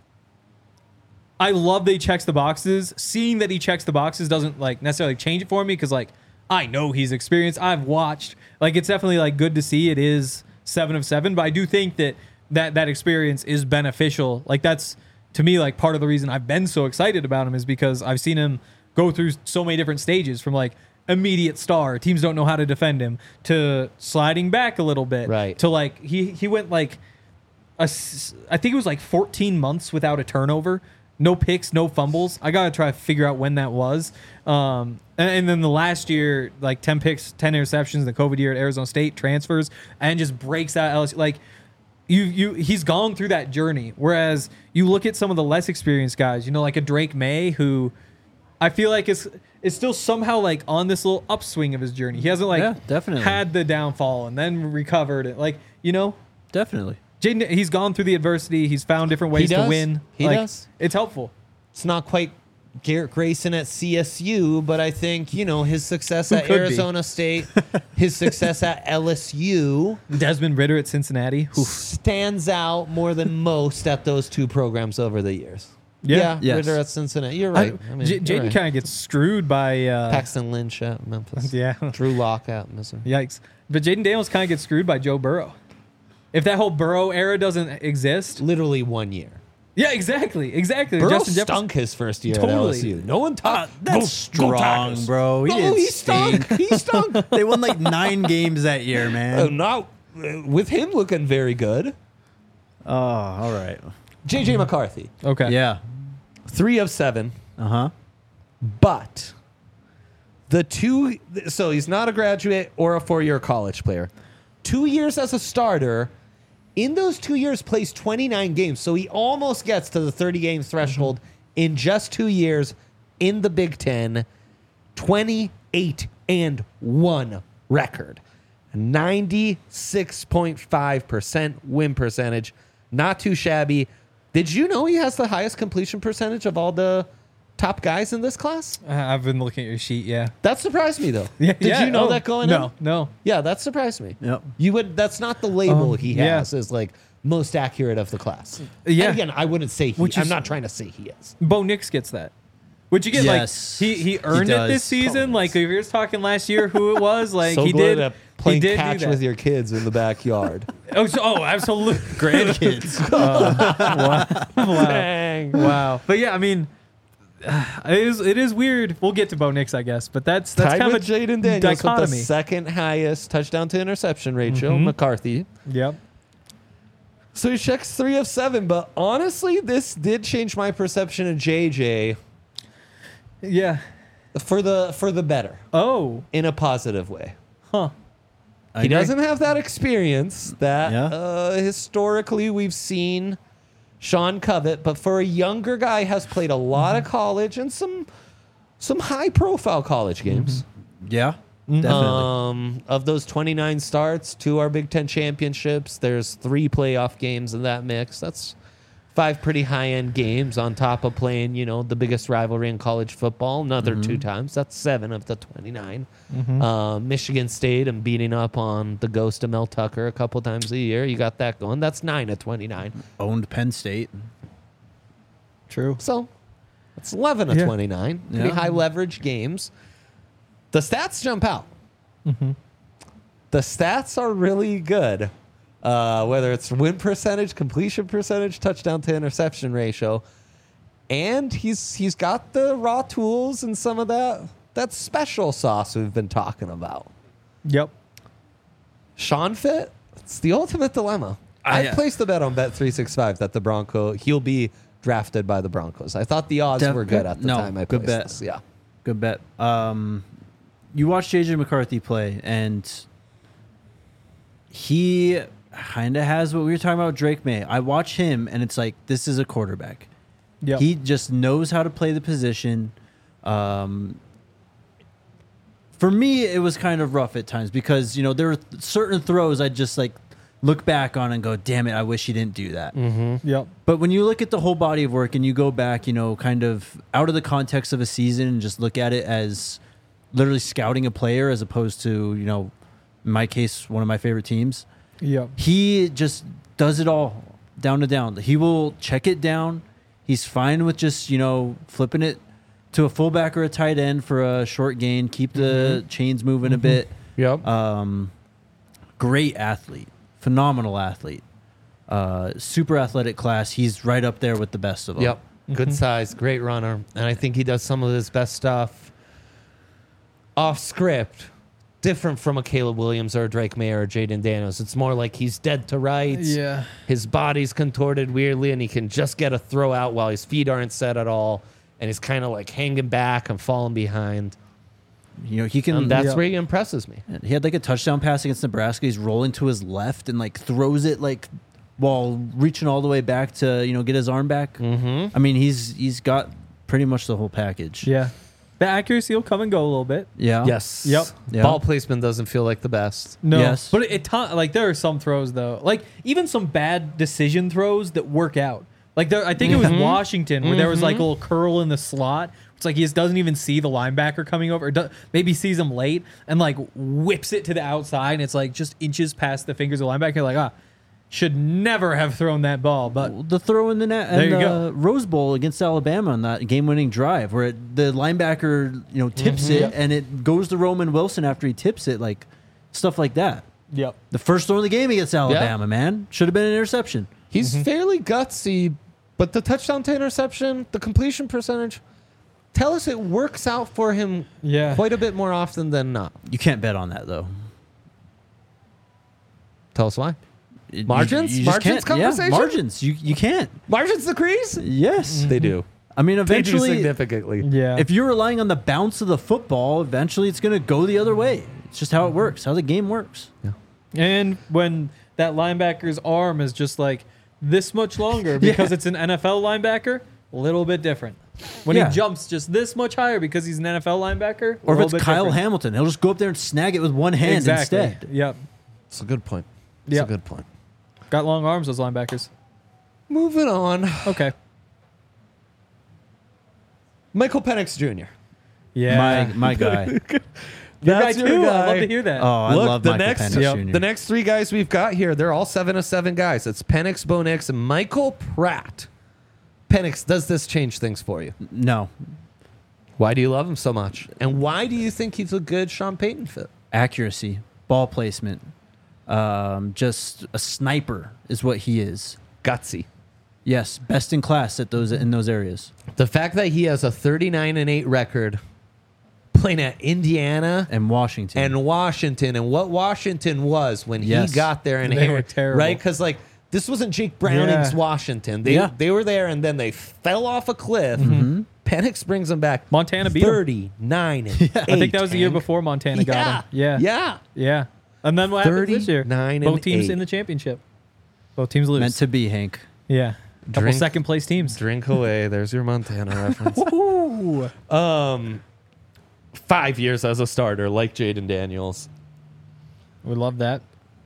I love that he checks the boxes. Seeing that he checks the boxes doesn't like necessarily change it for me because like I know he's experienced. I've watched. Like it's definitely like good to see. It is 7 of 7, but I do think that experience is beneficial. Like that's to me like part of the reason I've been so excited about him is because I've seen him go through so many different stages from like immediate star, teams don't know how to defend him, to sliding back a little bit, Right. to like he went like I think it was like 14 months without a turnover. No picks, no fumbles. I got to try to figure out when that was. And then the last year, like 10 picks, 10 interceptions, the COVID year at Arizona State, transfers, and just breaks out LSU. Like, he's gone through that journey. Whereas you look at some of the less experienced guys, you know, like a Drake May, who I feel like is still somehow like on this little upswing of his journey. He hasn't like Yeah, definitely. had the downfall and then recovered it. Like, you know, Definitely. Jaden, he's gone through the adversity. He's found different ways to does. win. He Like, does. It's helpful. It's not quite Garrett Grayson at CSU, but I think, you know, his success Who at could be? Arizona State, his success at LSU Desmond Ritter at Cincinnati. Oof. stands out more than most at those 2 programs over the years. Yeah. Yes. Ritter at Cincinnati. You're right. I mean, you're Jaden right. kind of gets screwed by. Paxton Lynch at Memphis. Yeah. Drew Lock at Missouri. Yikes. But Jaden Daniels kind of gets screwed by Joe Burrow. If that whole Burrow era doesn't exist. Literally 1 year. Yeah, exactly. Burrow Justin Jefferson. stunk his first year Totally. at LSU. No one talked. That's strong, bro. He didn't he stink. stunk. He stunk. They won like 9 games that year, man. Not with him looking very good. Oh, all right. JJ McCarthy, Okay. Yeah. 3 of 7, Uh-huh. but the 2. So he's not a graduate or a 4-year college player. 2 years as a starter. In those 2 years, plays 29 games. So he almost gets to the 30-game threshold in just 2 years in the Big Ten. 28-1 record. 96.5% win percentage. Not too shabby. Did you know he has the highest completion percentage of all the top guys in this class? I've been looking at your sheet, yeah. That surprised me, though. Yeah, Did yeah. you know Oh, that going in? No. Yeah, that surprised me. Yep. You would. That's not the label he yeah. has as like most accurate of the class. Yeah. And again, I wouldn't say he. Which I'm is- not trying to say he is. Bo Nix gets that. Would you get Yes, like he earned he it this does. season? Like if you're talking last year, who it was? Like So he good did. at playing he did catch do that. with your kids in the backyard. Absolutely. Grandkids. Wow. Dang. Wow. But yeah, I mean, it is weird. We'll get to Bo Nix, I guess, but that's Tied kind with of a Jaden Daniels with the dichotomy. second highest touchdown to interception ratio, McCarthy. Yep. So he checks 3 of 7, but honestly, this did change my perception of JJ Yeah. for the better Oh. in a positive way. Huh. I He agree. doesn't have that experience that Yeah. historically we've seen Sean Covett, but for a younger guy has played a lot of college and some high profile college games. Yeah, definitely. Of those 29 starts, 2 are Big Ten championships. There's 3 playoff games in that mix. That's 5 pretty high-end games on top of playing, the biggest rivalry in college football another 2 times. That's 7 of the 29. Michigan State and beating up on the ghost of Mel Tucker a couple times a year. You got that going. That's 9 of 29. Owned Penn State. True. So that's 11 of Yeah. 29. Pretty Yeah. high leverage games. The stats jump out. The stats are really good. Whether it's win percentage, completion percentage, touchdown to interception ratio. And he's got the raw tools and some of that special sauce we've been talking about. Yep. Sean Fit, it's the ultimate dilemma. I placed the bet on Bet365 that he'll be drafted by the Broncos. I thought the odds were good at the time I good placed bet. this. Yeah. Good bet. You watch JJ McCarthy play, and he kind of has what we were talking about with Drake May. I watch him, and it's like, this is a quarterback. Yep. He just knows how to play the position. For me, it was kind of rough at times because, there were certain throws I'd just like look back on and go, damn it, I wish he didn't do that. Yep. But when you look at the whole body of work and you go back, kind of out of the context of a season and just look at it as literally scouting a player as opposed to, in my case, one of my favorite teams, Yep. he just does it all down to down. He will check it down. He's fine with just, flipping it to a fullback or a tight end for a short gain, keep the chains moving a bit. Yep. Great athlete, phenomenal athlete, super athletic class. He's right up there with the best of them. Yep. Good size, great runner. And I think he does some of his best stuff off script, different from a Caleb Williams or a Drake May or a Jaden Daniels. It's more like he's dead to rights. Yeah. His body's contorted weirdly, and he can just get a throw out while his feet aren't set at all. And he's kind of like hanging back and falling behind. He can. And that's Yeah. where he impresses me. He had like a touchdown pass against Nebraska. He's rolling to his left and like throws it like while reaching all the way back to get his arm back. Mm-hmm. I mean, he's got pretty much the whole package. Yeah. The accuracy will come and go a little bit. Yeah. Yes. Yep. Yeah. Ball placement doesn't feel like the best. No, Yes. but like there are some throws though, like even some bad decision throws that work out. Like I think it was Washington where there was like a little curl in the slot. It's like he just doesn't even see the linebacker coming over, or maybe sees him late and like whips it to the outside, and it's like just inches past the fingers of the linebacker. Like should never have thrown that ball, but The throw in the net There and you the go. Rose Bowl against Alabama on that game-winning drive, where the linebacker tips it and it goes to Roman Wilson after he tips it, like stuff like that. yep, The first throw of the game against Alabama, man, should have been an interception. He's fairly gutsy, but the touchdown to interception, the completion percentage, tell us it works out for him Yeah. quite a bit more often than not. You can't bet on that though. Tell us why. You Margins? just Margins can't. conversation? Yeah, margins. You can't. Margins decrease? Yes. They do. I mean, They do eventually, significantly. yeah. if you're relying on the bounce of the football, eventually it's going to go the other way. It's just how it works, how the game works. And when that linebacker's arm is just like this much longer because it's an NFL linebacker, a little bit different. When Yeah. he jumps just this much higher because he's an NFL linebacker, Or a if little it's bit Kyle different. Hamilton, he'll just go up there and snag it with one hand Exactly. instead. Yep. It's a good point. It's Yep. a good point. Got long arms, those linebackers. Moving on. Okay. Michael Penix Jr. Yeah. My guy. Your guy That's too. your I'd guy. love to hear that. Oh, I Look, love the Michael next- Penix Yep. Jr. The next 3 guys we've got here, they're all 7 of 7 guys. It's Penix, Bo Nix, and Michael Pratt. Penix, does this change things for you? No. Why do you love him so much? And why do you think he's a good Sean Payton fit? Accuracy, ball placement. Just a sniper is what he is. Gutsy. Yes, best in class at those in those areas. The fact that he has a 39-8 record playing at Indiana And Washington. and what Washington was when Yes. he got there and They were terrible. right? Because like this wasn't Jake Browning's Yeah. Washington. Yeah. They were there and then they fell off a cliff. Penix brings them back. Montana beat 'em. 39-8. I think that was the year before Montana got him. Yeah. Yeah. Yeah. And then what happened this year? 39 Both and teams 8. in the championship. Both teams lose. Meant to be, Hank. Yeah. Couple Drink- second place teams. Drink away. There's your Montana reference. Ooh. 5 years as a starter, like Jaden Daniels. We love that.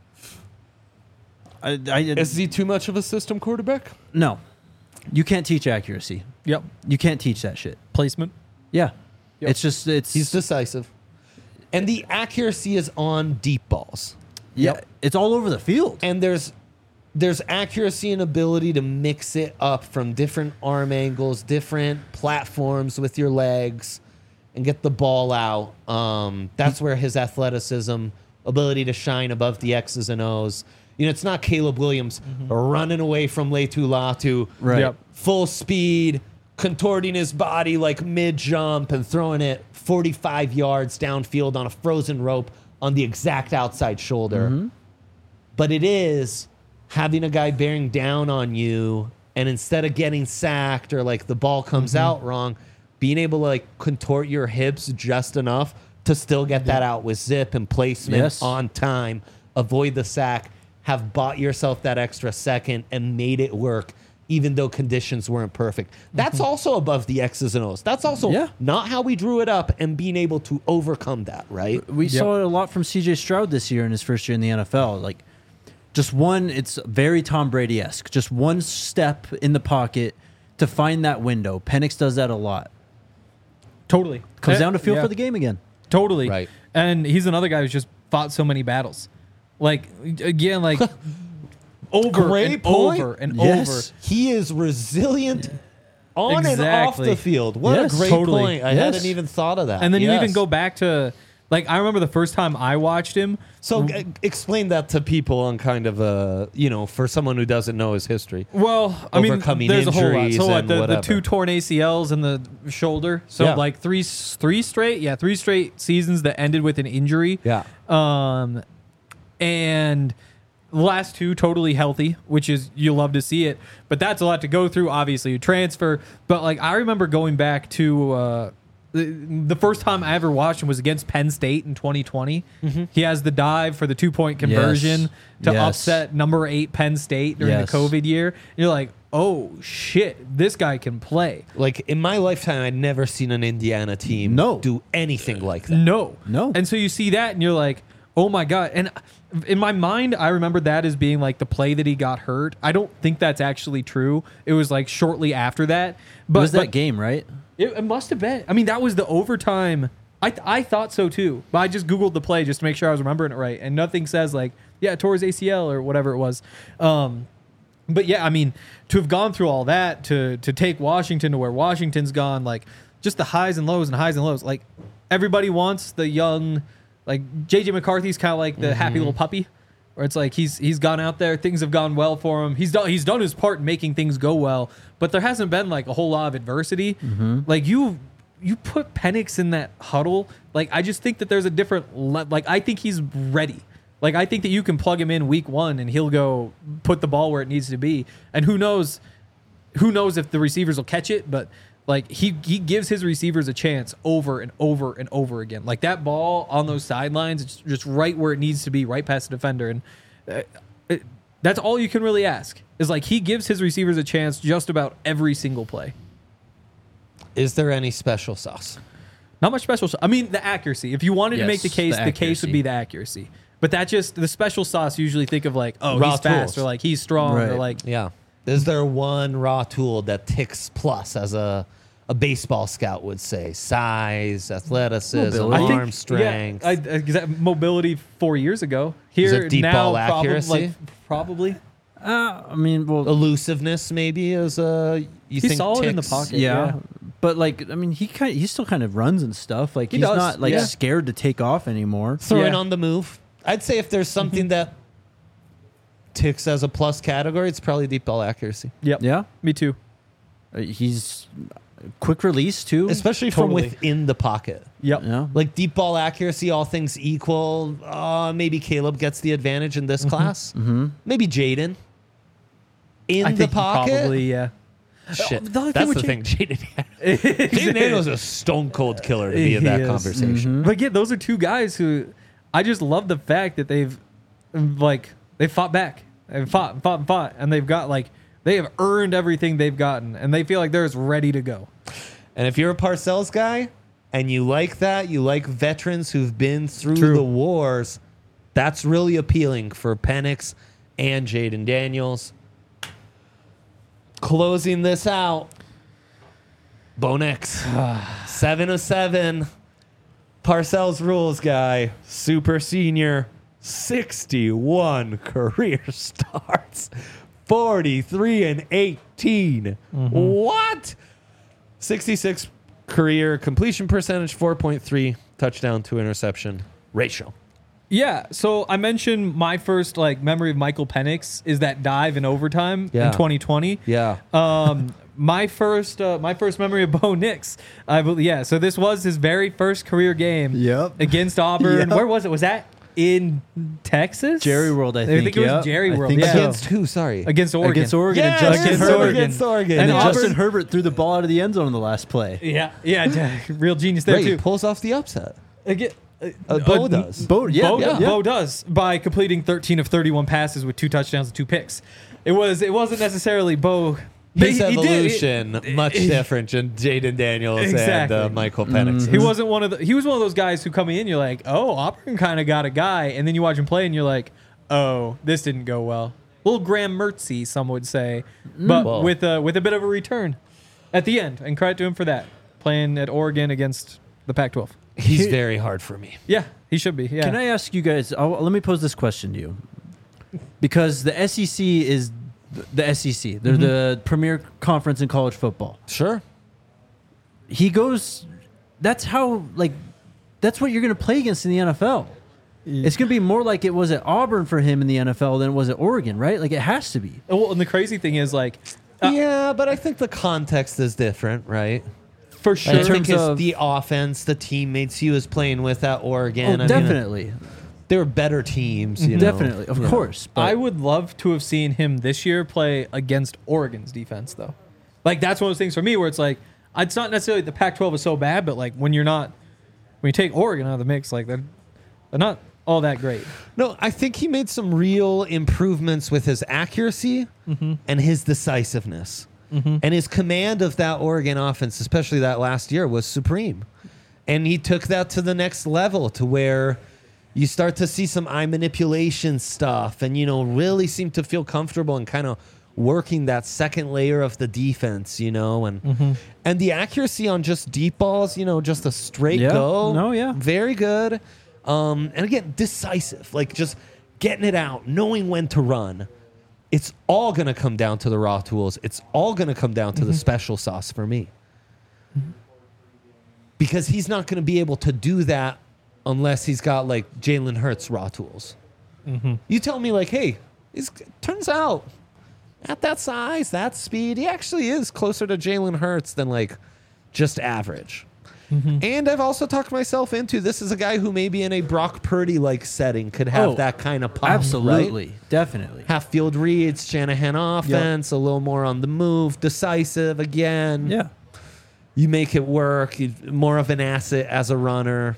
Is he too much of a system quarterback? No. You can't teach accuracy. Yep. You can't teach that shit. Placement. Yeah. Yep. He's decisive. And the accuracy is on deep balls. yeah, Yep. it's all over the field. And there's accuracy and ability to mix it up from different arm angles, different platforms with your legs and get the ball out. That's where his athleticism, ability to shine above the X's and O's. You know, it's not Caleb Williams running away from Leitu Latu, Right. Yep. full speed, contorting his body like mid-jump and throwing it 45 yards downfield on a frozen rope on the exact outside shoulder. But it is having a guy bearing down on you, and instead of getting sacked or like the ball comes out wrong, being able to like contort your hips just enough to still get that out with zip and placement Yes. on time, avoid the sack, have bought yourself that extra second and made it work even though conditions weren't perfect. That's also above the X's and O's. That's also Yeah. not how we drew it up and being able to overcome that, right? We saw it a lot from CJ Stroud this year in his first year in the NFL. Like, just one, it's very Tom Brady-esque. Just one step in the pocket to find that window. Penix does that a lot. Totally. Comes down to feel Yeah. for the game again. Totally. Right. And he's another guy who's just fought so many battles. Like, again, like over Great and point. over and Yes. over. He is resilient on and off Exactly. the field. What Yes, a great totally. point. I Yes. hadn't even thought of that. And then you Yes. even go back to, like, I remember the first time I watched him. So explain that to people on kind of a, for someone who doesn't know his history. Well, I mean, Overcoming there's a whole lot. injuries So what, and the whatever. 2 torn ACLs in the shoulder. So Yeah. like three straight seasons that ended with an injury. Yeah. And the last 2 totally healthy, which is, you love to see it, but that's a lot to go through. Obviously, you transfer, but like I remember going back to the first time I ever watched him was against Penn State in 2020. He has the dive for the 2-point conversion to Yes. upset number 8 Penn State during Yes. the COVID year. And you're like, oh shit, this guy can play. Like in my lifetime, I'd never seen an Indiana team No. do anything like that. No. No. And so you see that and you're like, oh my God. And in my mind, I remember that as being like the play that he got hurt. I don't think that's actually true. It was like shortly after that. But It was that game, right? It must have been. I mean, that was the overtime. I thought so too. But I just Googled the play just to make sure I was remembering it right. And nothing says like, yeah, tore his ACL or whatever it was. But yeah, I mean, to have gone through all that, to take Washington to where Washington's gone, like just the highs and lows and highs and lows. Like everybody wants the young, like JJ McCarthy's kind of like the happy little puppy, where it's like he's gone out there, things have gone well for him. He's done his part in making things go well, but there hasn't been like a whole lot of adversity. Like you put Penix in that huddle, like I just think that there's a different like I think he's ready. Like I think that you can plug him in week 1 and he'll go put the ball where it needs to be. And who knows if the receivers will catch it, but like he gives his receivers a chance over and over and over again. Like that ball on those sidelines, it's just right where it needs to be, right past the defender. And that's all you can really ask is like he gives his receivers a chance just about every single play. Is there any special sauce? Not much special. I mean, the accuracy. If you wanted to make the Yes, case, the the case would accuracy. be the accuracy. But that just the special sauce. Usually think of like, oh, Raw he's fast, tools. or like he's strong, or Right. like Yeah. Is there one raw tool that ticks plus as a baseball scout would say? Size, athleticism, Mobility. arm strength. Yeah, mobility 4 years ago. Here it deep now, ball accuracy? Probably. I mean, well, Elusiveness maybe is you He's think solid in the ticks? pocket. yeah. But like, I mean, he still kind of runs and stuff. Like He he's does, not like yeah. scared to take off anymore. Throwing Yeah. on the move. I'd say if there's something that ticks as a plus category, it's probably deep ball accuracy. Yep. Yeah. Me too. He's quick release too. Especially Totally. from within the pocket. Yep. Yeah. Like deep ball accuracy, all things equal, maybe Caleb gets the advantage in this class. Mm-hmm. Maybe Jaden. In I the think he pocket? probably, yeah. Shit. The only That's thing the with thing. Jaden Daniels is a stone cold killer to be in He that is. conversation. But yeah, those are two guys who I just love the fact that they've they fought back. They've fought, and they've got they have earned everything they've gotten, and they feel like they're as ready to go. And if you're a Parcells guy and you like that, you like veterans who've been through True. the wars, that's really appealing for Penix and Jaden Daniels. Closing this out, Bo Nix, 7 of 7. Parcells rules guy, super senior, 61 career starts, 43 and 18. What? 66 career completion percentage, 4.3 touchdown to interception ratio. Yeah, so I mentioned my first memory of Michael Penix is that dive in overtime Yeah. in 2020. Yeah. My first memory of Bo Nix, I believe. Yeah, so this was his very first career game. Yep. Against Auburn. Yep. Where was it? Was that in Texas? Jerry World, I think. I think it was Jerry I World. think Yeah. so. Against who? Sorry. Against Oregon. Against Oregon. Yes, And Justin against Herbert. Oregon. Against Oregon. And And yeah. Justin Auburn- Herbert threw the ball out of the end zone on the last play. Yeah, real genius there Right, he too. pulls off the upset. Bo Bo does. Bo, yeah, Bo, yeah. Bo does by completing 13 of 31 passes with 2 touchdowns and 2 picks. It wasn't necessarily Bo. His He did- evolution much different than Jaden Daniels Exactly. and Michael Penix. He wasn't one of he was one of those guys who come in, you're like, oh, Auburn kind of got a guy, and then you watch him play and you're like, oh, this didn't go well. Little Graham Mertzy, some would say, but Well. with a bit of a return at the end, and credit to him for that, playing at Oregon against the Pac-12. He's very hard for me. Yeah, he should be. Yeah. Can I ask you guys? Let me pose this question to you, because the SEC is the SEC. They're the premier conference in college football. Sure. He goes. That's how that's what you're going to play against in the NFL. It's going to be more like it was at Auburn for him in the NFL than it was at Oregon, right? Like it has to be. Well, and the crazy thing is, Yeah, but I think the context is different, right? for sure. I In think terms it's of- the offense, the teammates he was playing with at Oregon. Oh, I mean, definitely, they were better teams, you know. definitely, of course. But I would love to have seen him this year play against Oregon's defense, though. That's one of those things for me where it's it's not necessarily the Pac-12 is so bad, but when you take Oregon out of the mix, they're not all that great. No, I think he made some real improvements with his accuracy and his decisiveness. And his command of that Oregon offense, especially that last year, was supreme. And he took that to the next level to where you start to see some eye manipulation stuff and, really seem to feel comfortable and kind of working that second layer of the defense, and the accuracy on just deep balls, just a straight Yeah. go. No, yeah. Very good. And again, decisive, just getting it out, knowing when to run. It's all going to come down to the raw tools. It's all going to come down to the special sauce for me. Because he's not going to be able to do that unless he's got Jalen Hurts raw tools. You tell me hey, turns out at that size, that speed, he actually is closer to Jalen Hurts than just average. And I've also talked myself into this is a guy who maybe in a Brock Purdy setting could have that kind of pop. absolutely, Right? definitely. Half field reads, Shanahan offense, a little more on the move, decisive again. Yeah. You make it work. More of an asset as a runner.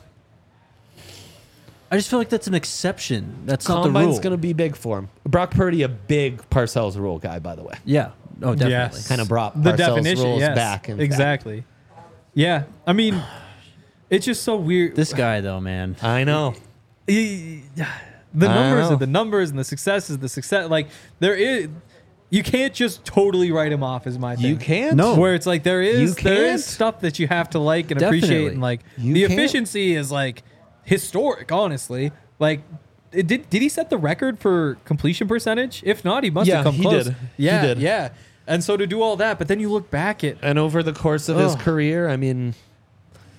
I just feel like that's an exception. That's not the Combine's rule. going to be big for him. Brock Purdy, a big Parcells rule guy, by the way. Yeah. Oh, definitely. Yes. Kind of brought The Parcells definition, rules yes, back. in fact. exactly. Yeah, I mean, it's just so weird. This guy, though, man. I know. The I numbers know. are the numbers, and the success is the success. There is, you can't just totally write him off. Is my thing. You can't? No. Where it's there You is can't. stuff that you have to like and appreciate, Definitely. and You the can't. efficiency is historic. Honestly, did he set the record for completion percentage? If not, he must Yeah, have come he close. did. He Yeah, did. yeah. And so to do all that, but then you look back at And over the course of his Oh. career, I mean,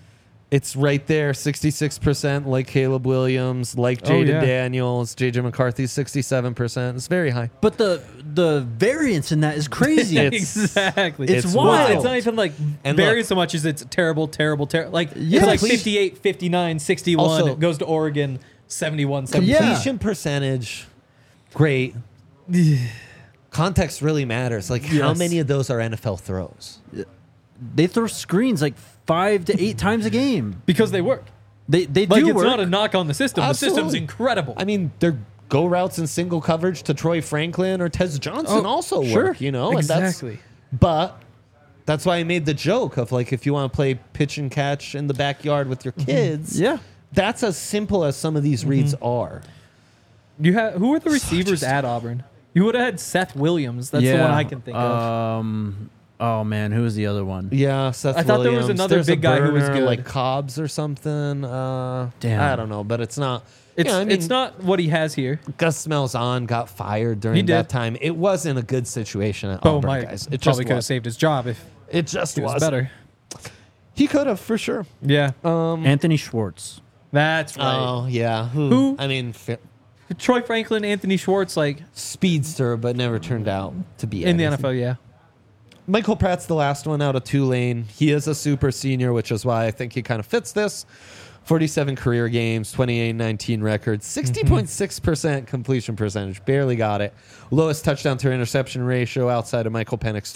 It's right there, 66%, like Caleb Williams, like Jaden yeah. Daniels, JJ McCarthy, 67%. It's very high. But the variance in that is crazy. Exactly. It's Well, wild. it's not even like And varies look- so much as it's terrible. Like Yeah, it's like please. 58, 59, 61. Also- It goes to Oregon, 71, 70. Yeah. Completion percentage, great. Context really matters. Like, how Yes. many of those are NFL throws? They throw screens like 5 to 8 times a game. Because they work. They Like do it's work. not a knock on the system. Absolutely. The system's incredible. I mean, they're go routes in single coverage to Troy Franklin or Tez Johnson Oh, also sure. work, you know? Exactly. But that's why I made the joke of like, if you want to play pitch and catch in the backyard with your kids, Yeah. that's as simple as some of these reads are. You have who are the receivers at Auburn? You would have had Seth Williams. That's the one I can think of. Oh man, who was the other one? Yeah, Seth I thought there was Williams. another There's a big guy who was burner, good. like Cobbs or something. Damn. I don't know, but it's not. It's yeah, I mean, it's not what he has here. Gus Malzahn got fired He during did. that time. It wasn't a good situation at Bo Auburn, might guys. It just probably could have was. saved his job if It just he was was better. He could have for sure. Yeah, Anthony Schwartz. that's right. Oh yeah. Who? I mean, Troy Franklin, Anthony Schwartz, like speedster, but never turned out to be in the anything. NFL. Yeah. Michael Pratt's the last one out of Tulane. He is a super senior, which is why I think he kind of fits this. 47 career games, 28-19 record, 60.6% completion percentage. Barely got it. Lowest touchdown to interception ratio outside of Michael Penix,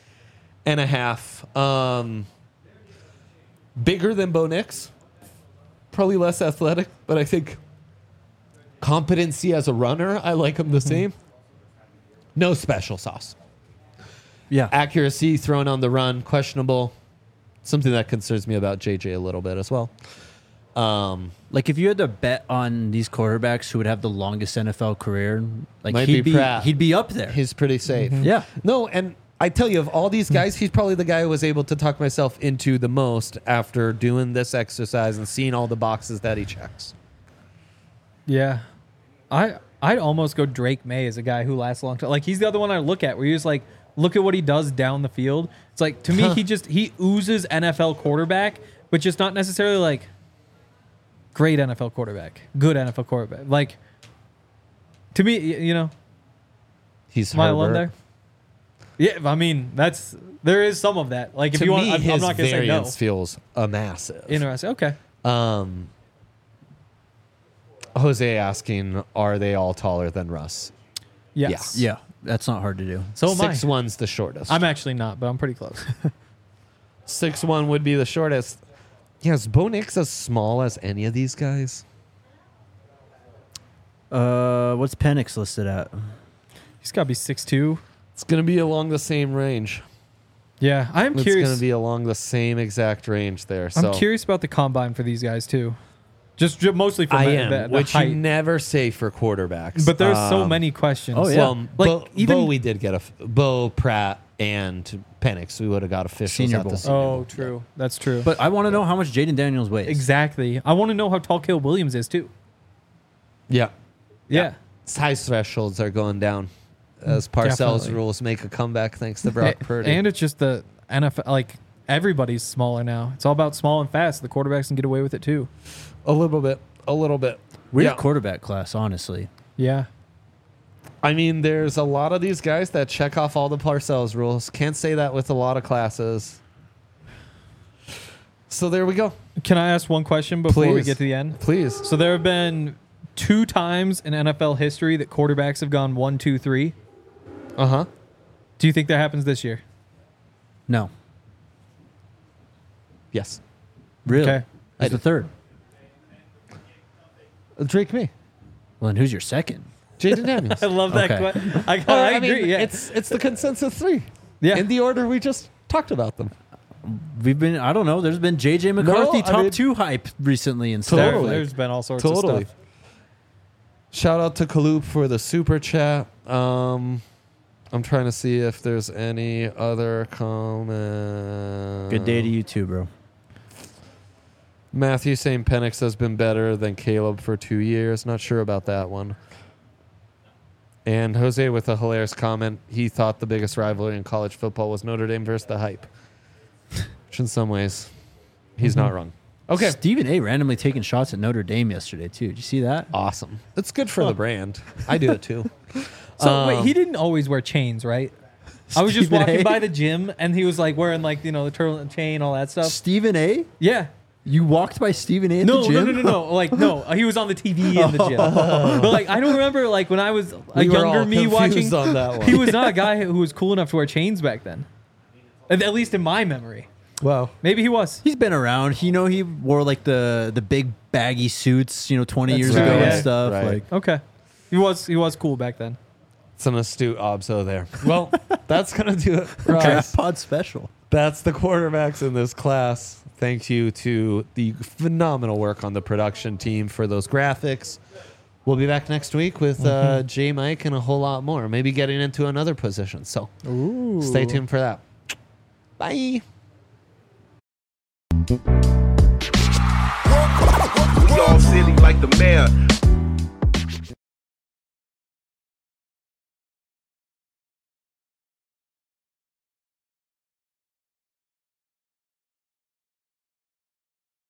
3.5. Bigger than Bo Nix. Probably less athletic, but I think competency as a runner, I like him the same. No special sauce. Yeah. Accuracy thrown on the run, questionable. Something that concerns me about JJ a little bit as well. Like if you had to bet on these quarterbacks who would have the longest NFL career, like Might he'd be Pratt. he'd be up there. He's pretty safe. Yeah. No, and I tell you, of all these guys, he's probably the guy who was able to talk myself into the most after doing this exercise and seeing all the boxes that he checks. Yeah. I'd almost go Drake May as a guy who lasts a long time. Like he's the other one I look at where you just like look at what he does down the field. It's like to me he oozes NFL quarterback, but just not necessarily like great NFL quarterback, good NFL quarterback. Like to me, you know, He's am I Herbert. alone there? Yeah, I mean there is some of that. Like if To you want, me, I'm his not gonna say no. variance feels a massive. Interesting. Okay. Jose asking, are they all taller than Russ? Yes. Yeah. That's not hard to do. So am I. 6'1's the shortest. I'm actually not, but I'm pretty close. 6'1 would be the shortest. Yeah, is Bo Nix as small as any of these guys? What's Penix listed at? He's got to be 6'2". It's going to be along the same range. Yeah, I'm It's curious. going to be along the same exact range there. So I'm curious about the combine for these guys too. Just mostly for I the, am, the which height. you never say for quarterbacks. But there's so many questions. Oh, yeah. Well, Like, Bo, we did get Bo Pratt and Penix. We would have got officials Senior at the Bowl. Senior Bowl. Oh, true. That's true. But I want to know how much Jaden Daniels weighs. exactly. I want to know how tall Caleb Williams is too. Yeah. Yeah. Size thresholds are going down as Parcells Definitely. rules make a comeback thanks to Brock Purdy. And it's just the NFL. Like everybody's smaller now. It's all about small and fast. The quarterbacks can get away with it too. a little bit. Weird Yeah. quarterback class, honestly. Yeah. I mean, there's a lot of these guys that check off all the Parcells rules. Can't say that with a lot of classes. So there we go. Can I ask one question before we Please. get to the end? Please. So there have been 2 times in NFL history that quarterbacks have gone 1, 2, 3. Uh-huh. Do you think that happens this year? No. Yes. Really? Okay. Who's the third? Drake May. Well, and who's your second? Jaden Daniels. I love that. Okay. I agree. Yeah. It's the consensus 3. Yeah. In the order we just talked about them. I don't know. There's been JJ McCarthy I top mean- 2 hype recently and stuff. Totally. There's been all sorts of Totally. stuff. Shout out to Kaloop for the super chat. I'm trying to see if there's any other comment. Good day to you too, bro. Matthew saying Penix has been better than Caleb for 2 years. Not sure about that one. And Jose with a hilarious comment. He thought the biggest rivalry in college football was Notre Dame versus the Hype. Which in some ways, he's not wrong. Okay. Stephen A. randomly taking shots at Notre Dame yesterday too. Did you see that? Awesome. It's good for the brand. I do it too. So wait, he didn't always wear chains, right? I was just Stephen walking A? by the gym and he was like wearing like, you know, the turtle chain, all that stuff. Stephen A. Yeah. You walked by Stephen A. at No, the gym? no. Like, no, he was on the TV in the gym. But like, I don't remember like when I was a We were younger all me watching. confused on that one. He was not a guy who was cool enough to wear chains back then. At least in my memory. Well, Maybe he was. He's been around. You know, he wore like the big baggy suits, 20 years true, ago yeah. and stuff. Right. Like, Okay. He was cool back then. it's an astute obso there. Well, that's going to do it for us. Draft Pod special. That's the quarterbacks in this class. Thank you to the phenomenal work on the production team for those graphics. We'll be back next week with J. Mike and a whole lot more. Maybe getting into another position. So stay tuned for that. Bye. We all silly like the mayor.